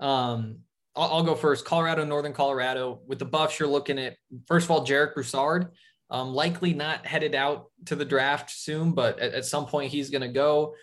I'll go first. Colorado, Northern Colorado. With the Buffs, you're looking at, first of all, Jarek Broussard. Likely not headed out to the draft soon, but at some point he's going to go.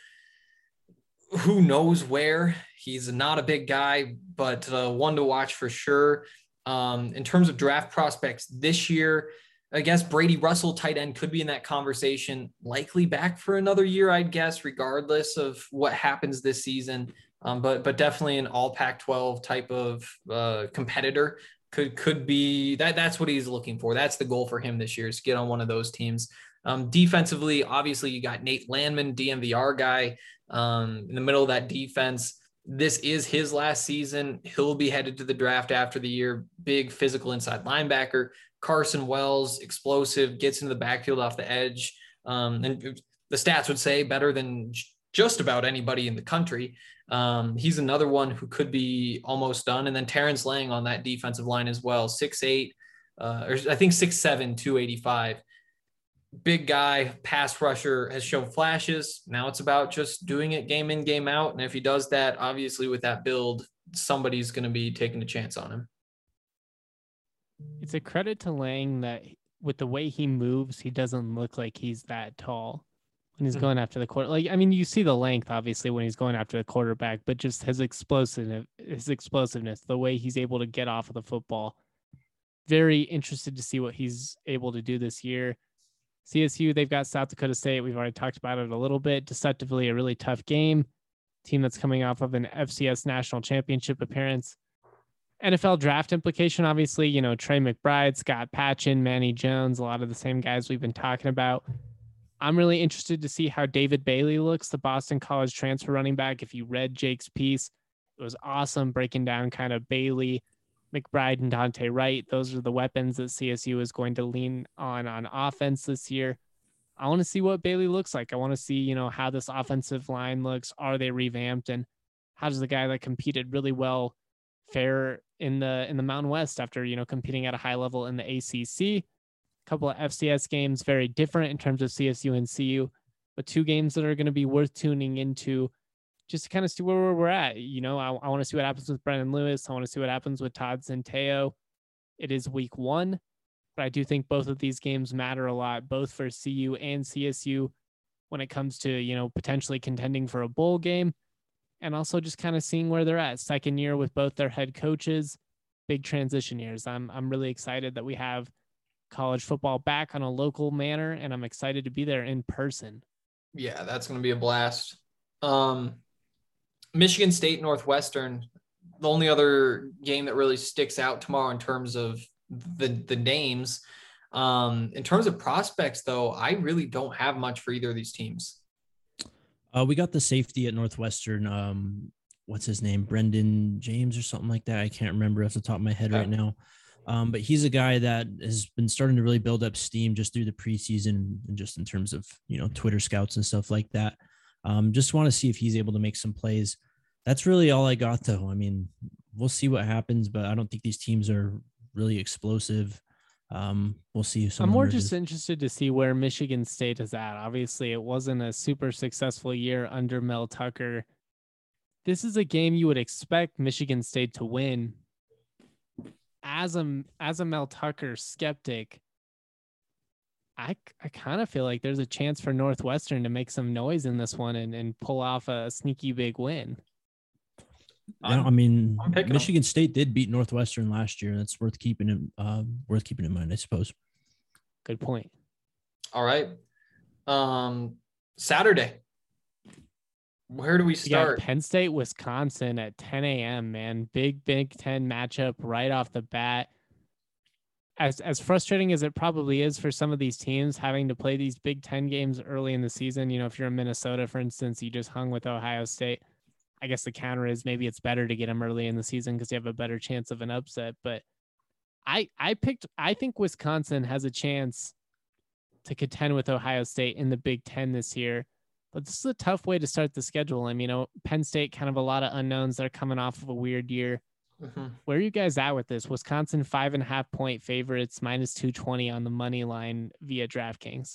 Who knows where? He's not a big guy, but one to watch for sure. In terms of draft prospects this year, I guess Brady Russell, tight end, could be in that conversation, likely back for another year, I'd guess, regardless of what happens this season. But definitely an all Pac-12 type of competitor could be that. That's what he's looking for. That's the goal for him this year, is to get on one of those teams. Defensively, obviously you got Nate Landman, DMVR guy, in the middle of that defense. This is his last season. He'll be headed to the draft after the year. Big physical inside linebacker. Carson Wells, explosive, gets into the backfield off the edge. And the stats would say better than just about anybody in the country. He's another one who could be almost done. And then Terrence Lang on that defensive line as well. 6'8", or I think 6'7", 285. Big guy, pass rusher, has shown flashes. Now it's about just doing it game in, game out. And if he does that, obviously with that build, somebody's going to be taking a chance on him. It's a credit to Lang that with the way he moves, he doesn't look like he's that tall when he's going after the quarter. Like, I mean, you see the length obviously when he's going after the quarterback, but just his explosiveness, the way he's able to get off of the football. Very interested to see what he's able to do this year. CSU, they've got South Dakota State. We've already talked about it a little bit. Deceptively a really tough game. Team that's coming off of an FCS national championship appearance. NFL draft implication, obviously, Trey McBride, Scott Patchin, Manny Jones, a lot of the same guys we've been talking about. I'm really interested to see how David Bailey looks, the Boston College transfer running back. If you read Jake's piece, it was awesome breaking down kind of Bailey, McBride, and Dante Wright. Those are the weapons that CSU is going to lean on offense this year. I want to see what Bailey looks like. I want to see, how this offensive line looks. Are they revamped? And how does the guy that competed really well fare in the Mountain West after, competing at a high level in the ACC? A couple of FCS games, very different in terms of CSU and CU, but two games that are going to be worth tuning into just to kind of see where we're at. I want to see what happens with Brendan Lewis. I want to see what happens with Todd Centeio. It is week 1, but I do think both of these games matter a lot, both for CU and CSU when it comes to, potentially contending for a bowl game and also just kind of seeing where they're at. Second year with both their head coaches, big transition years. I'm really excited that we have college football back on a local manner, and I'm excited to be there in person. Yeah, that's going to be a blast. Michigan State, Northwestern, the only other game that really sticks out tomorrow in terms of the names. In terms of prospects, though, I really don't have much for either of these teams. We got the safety at Northwestern. What's his name? Brendan James or something like that. I can't remember off the top of my head right now. But he's a guy that has been starting to really build up steam just through the preseason and just in terms of, Twitter scouts and stuff like that. Just want to see if he's able to make some plays. That's really all I got, though. I mean, we'll see what happens, but I don't think these teams are really explosive. We'll see. I'm more just interested to see where Michigan State is at. Obviously, it wasn't a super successful year under Mel Tucker. This is a game you would expect Michigan State to win. As a Mel Tucker skeptic, I kind of feel like there's a chance for Northwestern to make some noise in this one and pull off a sneaky big win. Yeah, I mean, Michigan State did beat Northwestern last year. That's worth keeping in mind, I suppose. Good point. All right. Saturday. Where do we start? Penn State, Wisconsin at 10 a.m., man. Big Big Ten matchup right off the bat. As frustrating as it probably is for some of these teams having to play these Big Ten games early in the season, if you're in Minnesota, for instance, you just hung with Ohio State. I guess the counter is maybe it's better to get them early in the season because you have a better chance of an upset. But I think Wisconsin has a chance to contend with Ohio State in the Big Ten this year. But this is a tough way to start the schedule. I mean, Penn State, kind of a lot of unknowns. They're coming off of a weird year. Mm-hmm. Where are you guys at with this? Wisconsin 5.5-point favorites, -220 on the money line via DraftKings.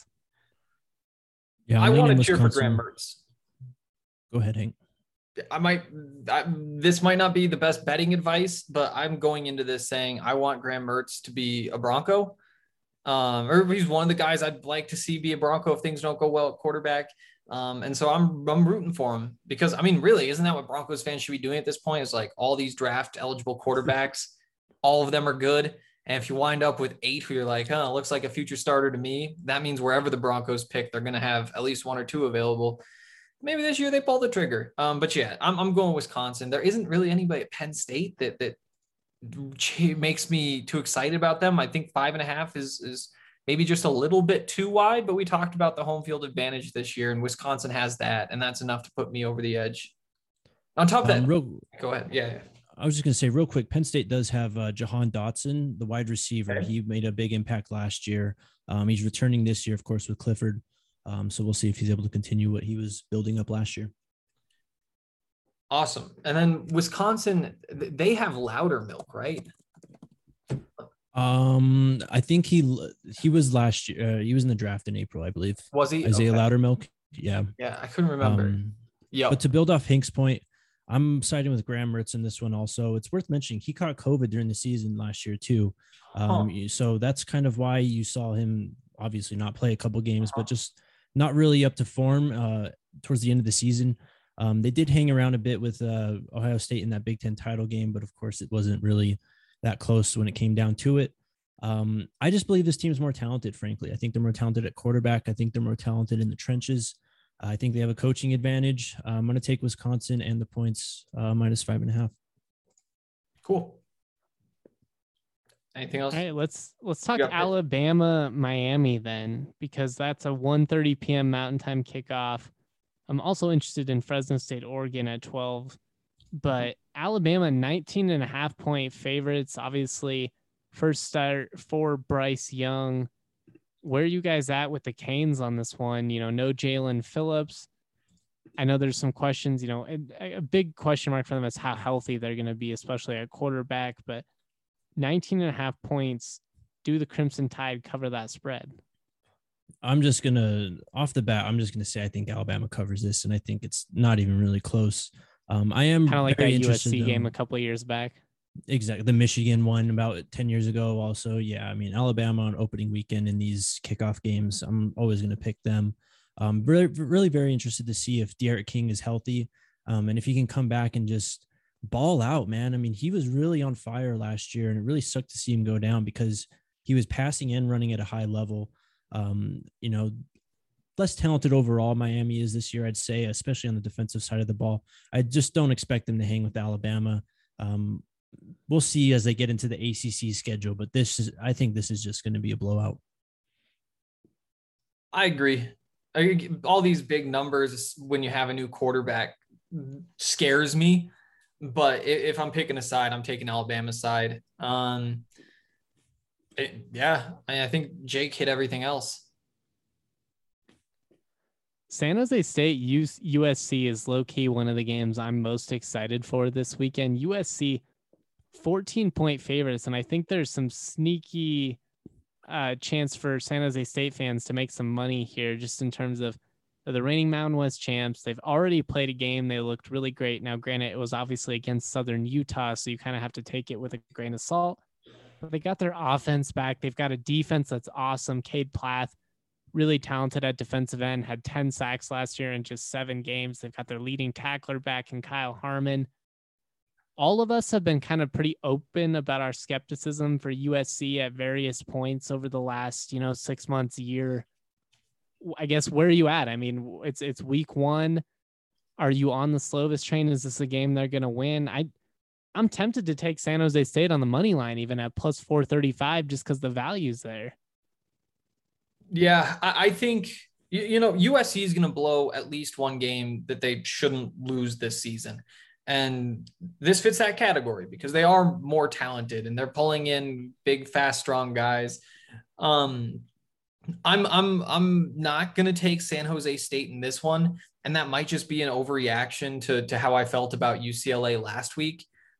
Yeah, I want to cheer for Graham Mertz. Go ahead, Hank. This might not be the best betting advice, but I'm going into this saying I want Graham Mertz to be a Bronco. Or he's one of the guys I'd like to see be a Bronco if things don't go well at quarterback. And so I'm rooting for him because, I mean, really, isn't that what Broncos fans should be doing at this point? It's like all these draft eligible quarterbacks, all of them are good. And if you wind up with 8 who you're like, looks like a future starter to me, that means wherever the Broncos pick, they're going to have at least 1 or 2 available. Maybe this year they pull the trigger. But yeah, I'm going Wisconsin. There isn't really anybody at Penn State that makes me too excited about them. I think 5.5 is maybe just a little bit too wide, but we talked about the home field advantage this year, and Wisconsin has that, and that's enough to put me over the edge. On top of that, go ahead. Yeah. I was just going to say real quick, Penn State does have Jahan Dotson, the wide receiver. Okay. He made a big impact last year. He's returning this year, of course, with Clifford. So we'll see if he's able to continue what he was building up last year. Awesome. And then Wisconsin, they have Loudermilk, right? I think he was last year. He was in the draft in April, I believe. Was he? Isaiah Loudermilk? Yeah. Yeah, I couldn't remember. Yeah. But to build off Hank's point, I'm siding with Graham Mertz in this one also. It's worth mentioning he caught COVID during the season last year too. So that's kind of why you saw him obviously not play a couple games, but just not really up to form towards the end of the season. They did hang around a bit with Ohio State in that Big Ten title game, but of course it wasn't really that close when it came down to it. I just believe this team is more talented, frankly. I think they're more talented at quarterback. I think they're more talented in the trenches. I think they have a coaching advantage. I'm going to take Wisconsin and the points -5.5. Cool. Anything else? All right, let's talk Alabama, Miami then, because that's a 1:30 p.m. Mountain Time kickoff. I'm also interested in Fresno State, Oregon at 12, but Alabama 19.5-point favorites. Obviously, first start for Bryce Young. Where are you guys at with the Canes on this one? No Jalen Phillips. I know there's some questions, a big question mark for them is how healthy they're going to be, especially at quarterback, but 19.5 points. Do the Crimson Tide cover that spread? Off the bat, I'm just going to say I think Alabama covers this, and I think it's not even really close. I am kind of like that USC game a couple of years back. Exactly. The Michigan one about 10 years ago also. Yeah, I mean, Alabama on opening weekend in these kickoff games, I'm always going to pick them. Really, really very interested to see if D'Eriq King is healthy and if he can come back and just ball out, man. I mean, he was really on fire last year, and it really sucked to see him go down because he was passing and running at a high level. You know, less talented overall Miami is this year, I'd say, especially on the defensive side of the ball. I just don't expect them to hang with Alabama. We'll see as they get into the ACC schedule, but I think this is just going to be a blowout. I agree. All these big numbers when you have a new quarterback scares me, but if I'm picking a side, I'm taking Alabama's side. I think Jake hit everything else. San Jose State USC is low-key one of the games I'm most excited for this weekend. USC 14-point favorites, and I think there's some sneaky chance for San Jose State fans to make some money here, just in terms of the reigning Mountain West champs. They've already played a game. They looked really great. Now, granted, it was obviously against Southern Utah, so you kind of have to take it with a grain of salt. But they got their offense back. They've got a defense that's awesome. Cade Plath, really talented at defensive end, had 10 sacks last year in just 7 games. They've got their leading tackler back in Kyle Harmon. All of us have been kind of pretty open about our skepticism for USC at various points over the last, 6 months, year. I guess, where are you at? I mean, it's week 1. Are you on the Slovis train? Is this a game they're going to win? I'm tempted to take San Jose State on the money line, even at plus 435, just because the value's there. Yeah, I think, USC is going to blow at least one game that they shouldn't lose this season. And this fits that category because they are more talented and they're pulling in big, fast, strong guys. I'm not going to take San Jose State in this one. And that might just be an overreaction to how I felt about UCLA last week.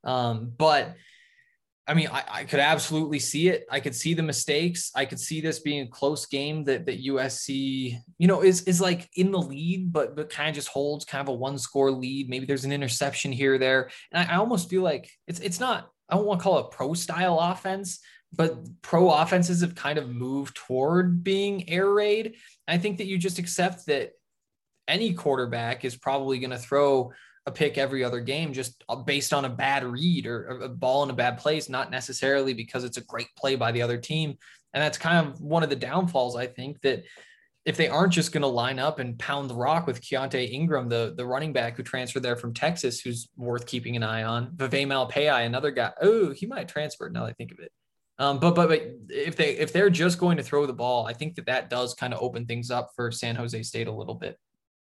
But I mean, I could absolutely see it. I could see the mistakes. I could see this being a close game that USC, is like in the lead, but kind of just holds kind of a 1-score lead. Maybe there's an interception here or there. And I almost feel like it's not, I don't want to call it pro style offense, but pro offenses have kind of moved toward being air raid. I think that you just accept that any quarterback is probably going to throw a pick every other game just based on a bad read or a ball in a bad place, not necessarily because it's a great play by the other team. And that's kind of one of the downfalls, I think, that if they aren't just going to line up and pound the rock with Keontae Ingram, the running back who transferred there from Texas, who's worth keeping an eye on, Vivek Malpei, another guy. Oh, he might transfer now that I think of it. But if they're just going to throw the ball, I think that does kind of open things up for San Jose State a little bit.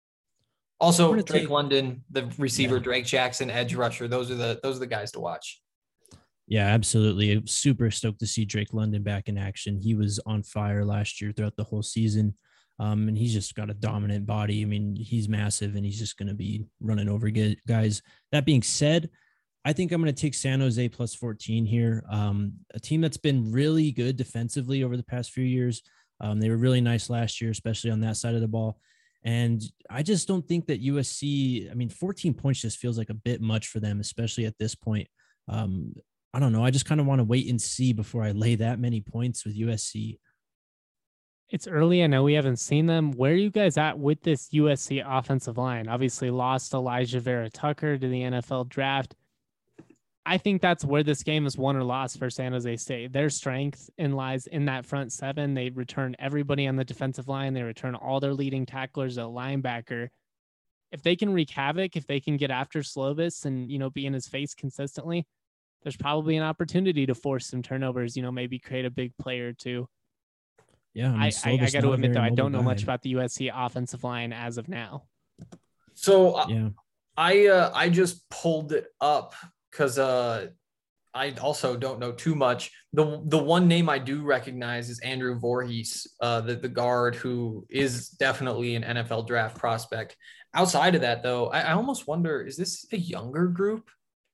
Also, Drake London, the receiver, Drake Jackson, edge rusher. Those are the guys to watch. Yeah, absolutely. I'm super stoked to see Drake London back in action. He was on fire last year throughout the whole season. And he's just got a dominant body. I mean, he's massive and he's just going to be running over guys. That being said, I think I'm going to take San Jose plus 14 here. A team that's been really good defensively over the past few years. They were really nice last year, especially on that side of the ball. And I just don't think that USC, 14 points just feels like a bit much for them, especially at this point. I don't know. I just kind of want to wait and see before I lay that many points with USC. It's early. I know we haven't seen them. Where are you guys at with this USC offensive line? Obviously lost Elijah Vera Tucker to the NFL draft. I think that's where this game is won or lost for San Jose State. Their strength lies in that front 7. They return everybody on the defensive line. They return all their leading tacklers at linebacker. If they can wreak havoc, if they can get after Slovis and, be in his face consistently, there's probably an opportunity to force some turnovers, maybe create a big play or two. Yeah. I got to admit, though, I don't know much about the USC offensive line as of now. So yeah. I just pulled it up because I also don't know too much. The one name I do recognize is Andrew Voorhees, the guard who is definitely an NFL draft prospect. Outside of that, though, I almost wonder, is this a younger group?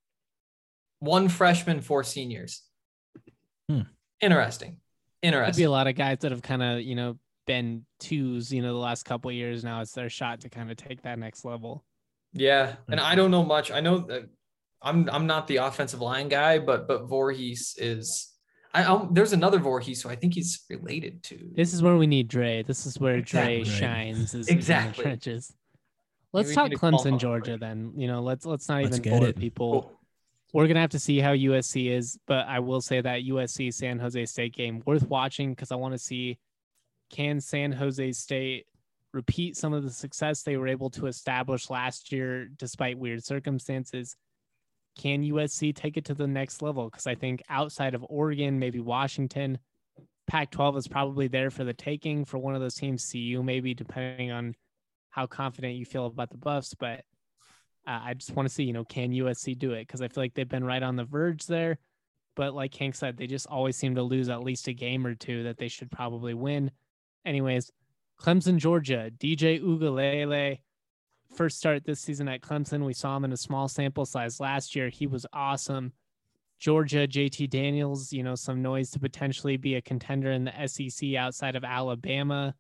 1 freshman, 4 seniors. Interesting. Could be a lot of guys that have kind of, been 2s, the last couple of years. Now it's their shot to kind of take that next level. Yeah. And I don't know much. I know that I'm not the offensive line guy, but Voorhees is. There's another Voorhees, so I think he's related to. This is where we need Dre. This is where Dre shines. Exactly. In the trenches. Let's talk Clemson, Georgia. Then let's not even bore people. We're going to have to see how USC is, but I will say that USC San Jose State game worth watching because I want to see, can San Jose State repeat some of the success they were able to establish last year despite weird circumstances? Can USC take it to the next level? Because I think outside of Oregon, maybe Washington, Pac-12 is probably there for the taking for one of those teams, CU maybe, depending on how confident you feel about the Buffs. But I just want to see, can USC do it? Because I feel like they've been right on the verge there. But like Hank said, they just always seem to lose at least a game or two that they should probably win. Anyways, Clemson, Georgia, DJ Uiagalelei, first start this season at Clemson. We saw him in a small sample size last year. He was awesome. Georgia, JT Daniels, some noise to potentially be a contender in the SEC outside of Alabama.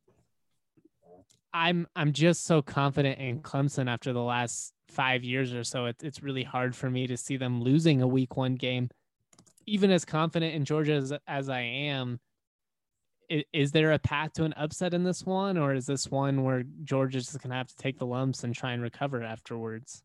I'm just so confident in Clemson after the last 5 years or so. It's really hard for me to see them losing a week 1 game. Even as confident in Georgia as I am, is there a path to an upset in this one, or is this one where Georgia's just going to have to take the lumps and try and recover afterwards?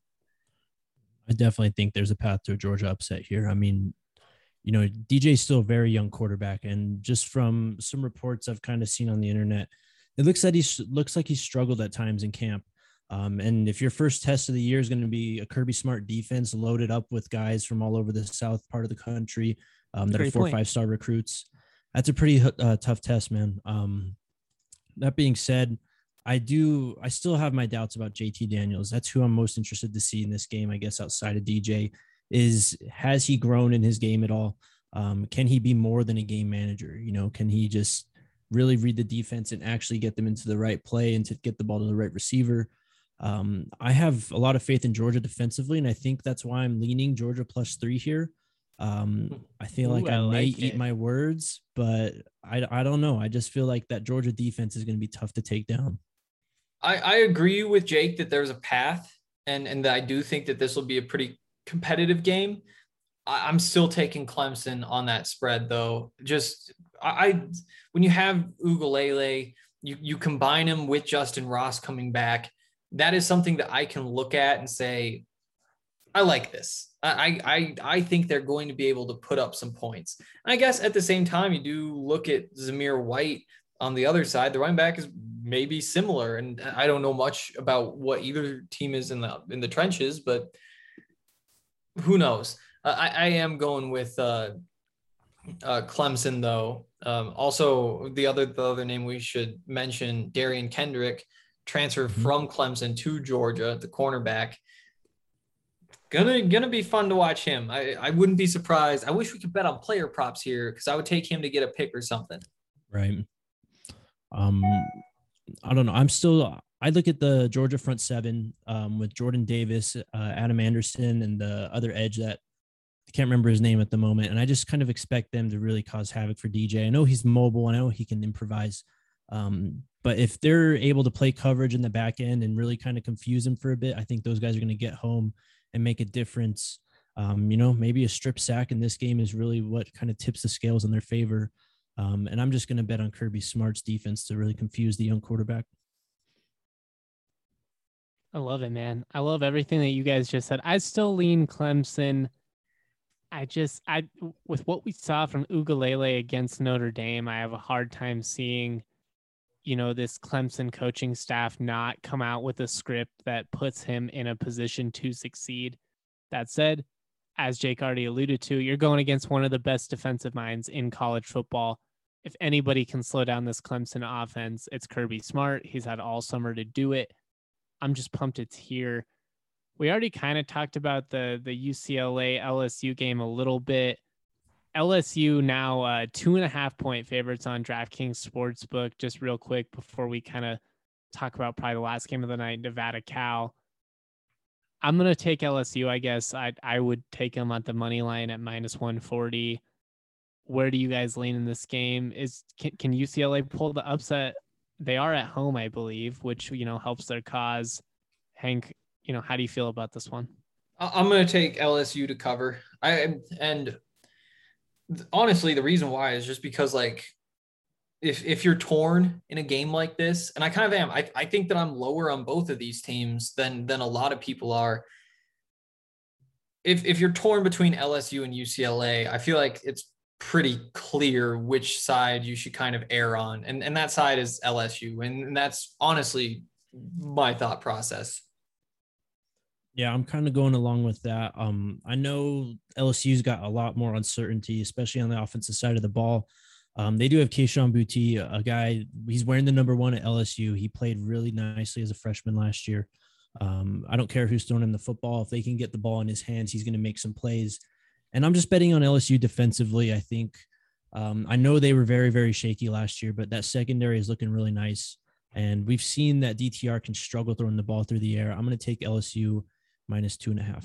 I definitely think there's a path to a Georgia upset here. I mean, DJ's still a very young quarterback, and just from some reports I've kind of seen on the internet, it looks like he's struggled at times in camp. And if your first test of the year is going to be a Kirby Smart defense loaded up with guys from all over the south part of the country that are 4 or 5 star recruits, that's a pretty tough test, man. That being said, I still have my doubts about JT Daniels. That's who I'm most interested to see in this game, I guess, outside of DJ. Has he grown in his game at all? Can he be more than a game manager? Can he just really read the defense and actually get them into the right play and to get the ball to the right receiver? I have a lot of faith in Georgia defensively, and I think that's why I'm leaning Georgia +3 here. I feel like I may eat my words, but I don't know. I just feel like that Georgia defense is going to be tough to take down. I agree with Jake that there's a path, and that I do think that this will be a pretty competitive game. I'm still taking Clemson on that spread, though. Just when you have Uiagalelei, you combine him with Justin Ross coming back. That is something that I can look at and say, I like this. I think they're going to be able to put up some points. And I guess at the same time, you do look at Zamir White on the other side. The running back is maybe similar, and I don't know much about what either team is in the trenches, but who knows? I am going with Clemson, though. Also, the other name we should mention, Darian Kendrick, transferred from Clemson to Georgia, the cornerback. Gonna be fun to watch him. I wouldn't be surprised. I wish we could bet on player props here because I would take him to get a pick or something. Right. I don't know. I look at the Georgia front seven with Jordan Davis, Adam Anderson, and the other edge that I can't remember his name at the moment. And I just kind of expect them to really cause havoc for DJ. I know he's mobile. I know he can improvise. But if they're able to play coverage in the back end and really kind of confuse him for a bit, I think those guys are going to get home and make a difference. Maybe a strip sack in this game is really what kind of tips the scales in their favor. And I'm just going to bet on Kirby Smart's defense to really confuse the young quarterback. I love it, man. I love everything that you guys just said. I still lean Clemson. With what we saw from Uiagalelei against Notre Dame, I have a hard time seeing, this Clemson coaching staff not come out with a script that puts him in a position to succeed. That said, as Jake already alluded to, you're going against one of the best defensive minds in college football. If anybody can slow down this Clemson offense, it's Kirby Smart. He's had all summer to do it. I'm just pumped it's here. We already kind of talked about the UCLA LSU game a little bit. LSU now 2.5 point favorites on DraftKings Sportsbook. Just real quick before we kind of talk about probably the last game of the night, Nevada Cal. I'm going to take LSU, I guess. I would take them at the money line at -140. Where do you guys lean in this game? Can UCLA pull the upset? They are at home, I believe, which, helps their cause. Hank, how do you feel about this one? I'm going to take LSU to cover. And honestly, the reason why is just because, if you're torn in a game like this, and I kind of am, I think that I'm lower on both of these teams than a lot of people are. if you're torn between LSU and UCLA, I feel like it's pretty clear which side you should kind of err on. And that side is LSU. And that's honestly my thought process. Yeah, I'm kind of going along with that. I know LSU's got a lot more uncertainty, especially on the offensive side of the ball. They do have Kayshon Boutte, a guy, he's wearing the number 1 at LSU. He played really nicely as a freshman last year. I don't care who's throwing him the football. If they can get the ball in his hands, he's going to make some plays. And I'm just betting on LSU defensively. I think I know they were very, very shaky last year, but that secondary is looking really nice. And we've seen that DTR can struggle throwing the ball through the air. I'm going to take LSU -2.5.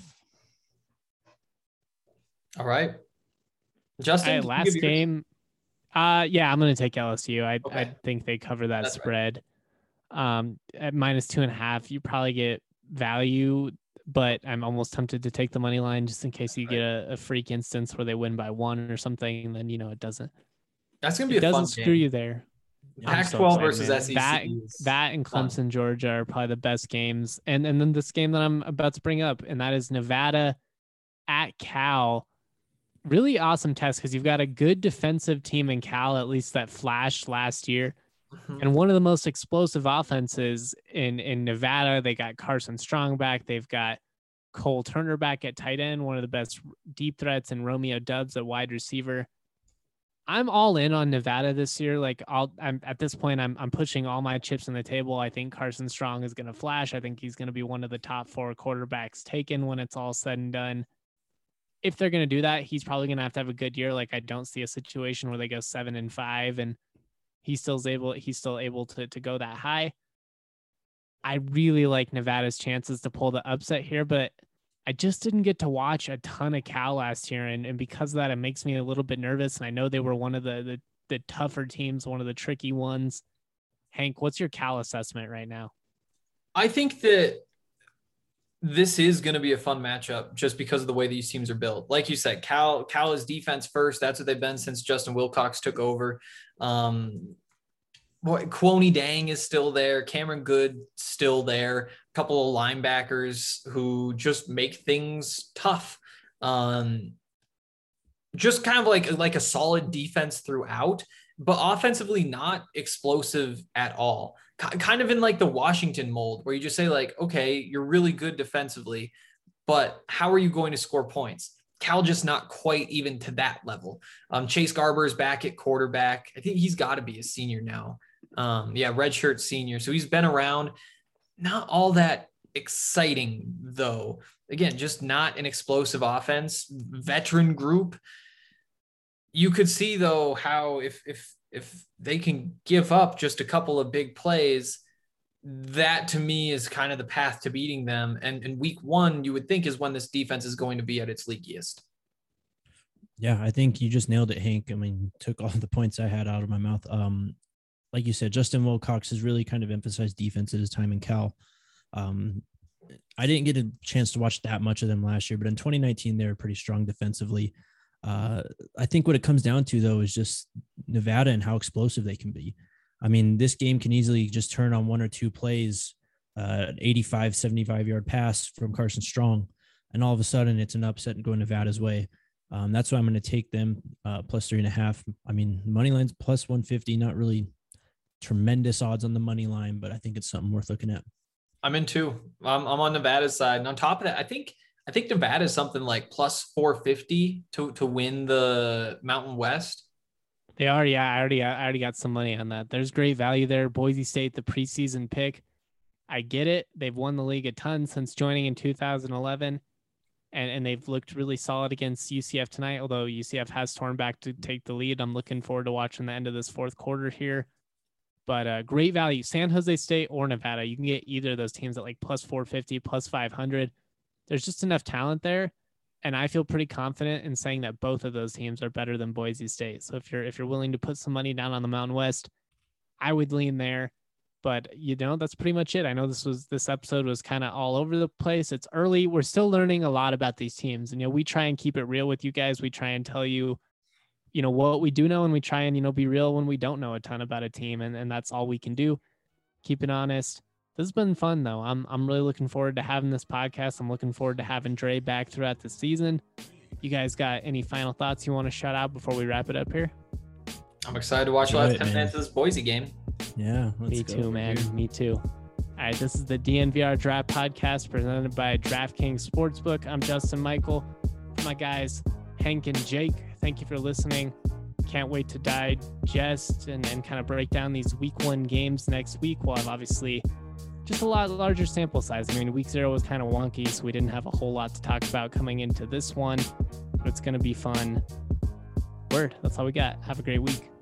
All right. Justin, last game. Yeah, I'm going to take LSU. Okay. I think they cover that That's spread. At -2.5, you probably get value, but I'm almost tempted to take the money line just in case you get a freak instance where they win by 1 or something. And then, it doesn't. That's going to be a fun doesn't screw game. you there. Pac-12 versus man. SEC. That and Clemson, Georgia are probably the best games. And then this game that I'm about to bring up, and that is Nevada at Cal. Really awesome test because you've got a good defensive team in Cal, at least that flashed last year. Mm-hmm. And one of the most explosive offenses in Nevada. They got Carson Strong back. They've got Cole Turner back at tight end, one of the best deep threats, and Romeo Doubs at wide receiver. I'm all in on Nevada this year. I'm at this point, I'm pushing all my chips on the table. I think Carson Strong is going to flash. I think he's going to be one of the top 4 quarterbacks taken when it's all said and done. If they're going to do that, he's probably going to have a good year. I don't see a situation where they go 7-5 and he's still able to go that high. I really like Nevada's chances to pull the upset here, but I just didn't get to watch a ton of Cal last year. And because of that, it makes me a little bit nervous. And I know they were one of the tougher teams, one of the tricky ones. Hank, what's your Cal assessment right now? I think that this is going to be a fun matchup just because of the way these teams are built. Like you said, Cal is defense first. That's what they've been since Justin Wilcox took over. Kwoni Dang is still there. Cameron Good still there. A couple of linebackers who just make things tough. Just kind of like a solid defense throughout, but offensively not explosive at all. Kind of in the Washington mold where you just say okay, you're really good defensively, but how are you going to score points? Cal just not quite even to that level. Chase Garber is back at quarterback. I think he's got to be a senior now. Redshirt senior. So he's been around. Not all that exciting though. Again, just not an explosive offense. Veteran group. You could see though how if they can give up just a couple of big plays, that to me is kind of the path to beating them. And week 1, you would think is when this defense is going to be at its leakiest. Yeah, I think you just nailed it, Hank. I mean, took all the points I had out of my mouth. Like you said, Justin Wilcox has really kind of emphasized defense at his time in Cal. I didn't get a chance to watch that much of them last year, but in 2019, they were pretty strong defensively. I think what it comes down to, though, is just Nevada and how explosive they can be. I mean, this game can easily just turn on 1 or 2 plays, an 85, 75-yard pass from Carson Strong, and all of a sudden it's an upset and going Nevada's way. That's why I'm going to take them plus 3.5. I mean, money line's plus 150, not really tremendous odds on the money line, but I think it's something worth looking at. I'm in too. I'm on Nevada's side. And on top of that, I think Nevada is something like plus 450 to win the Mountain West. They are. Yeah. I already got some money on that. There's great value there. Boise State, the preseason pick. I get it. They've won the league a ton since joining in 2011. And they've looked really solid against UCF tonight, although UCF has torn back to take the lead. I'm looking forward to watching the end of this 4th quarter here. But great value, San Jose State or Nevada. You can get either of those teams at plus 450, plus 500. There's just enough talent there. And I feel pretty confident in saying that both of those teams are better than Boise State. So if you're willing to put some money down on the Mountain West, I would lean there. But that's pretty much it. I know this episode was kind of all over the place. It's early. We're still learning a lot about these teams. And we try and keep it real with you guys. We try and tell you, what we do know, and we try and, be real when we don't know a ton about a team. And that's all we can do. Keep it honest. This has been fun though. I'm really looking forward to having this podcast. I'm looking forward to having Dre back throughout the season. You guys got any final thoughts you want to shout out before we wrap it up here? I'm excited to watch the last 10 minutes of this Boise game. Yeah. Me too, man. Me too. All right, this is the DNVR Draft Podcast presented by DraftKings Sportsbook. I'm Justin Michael. For my guys, Hank and Jake, thank you for listening. Can't wait to digest and kind of break down these week 1 games next week. We'll have obviously just a lot larger sample size. I mean, week 0 was kind of wonky, so we didn't have a whole lot to talk about coming into this one, but it's going to be fun. Word, that's all we got. Have a great week.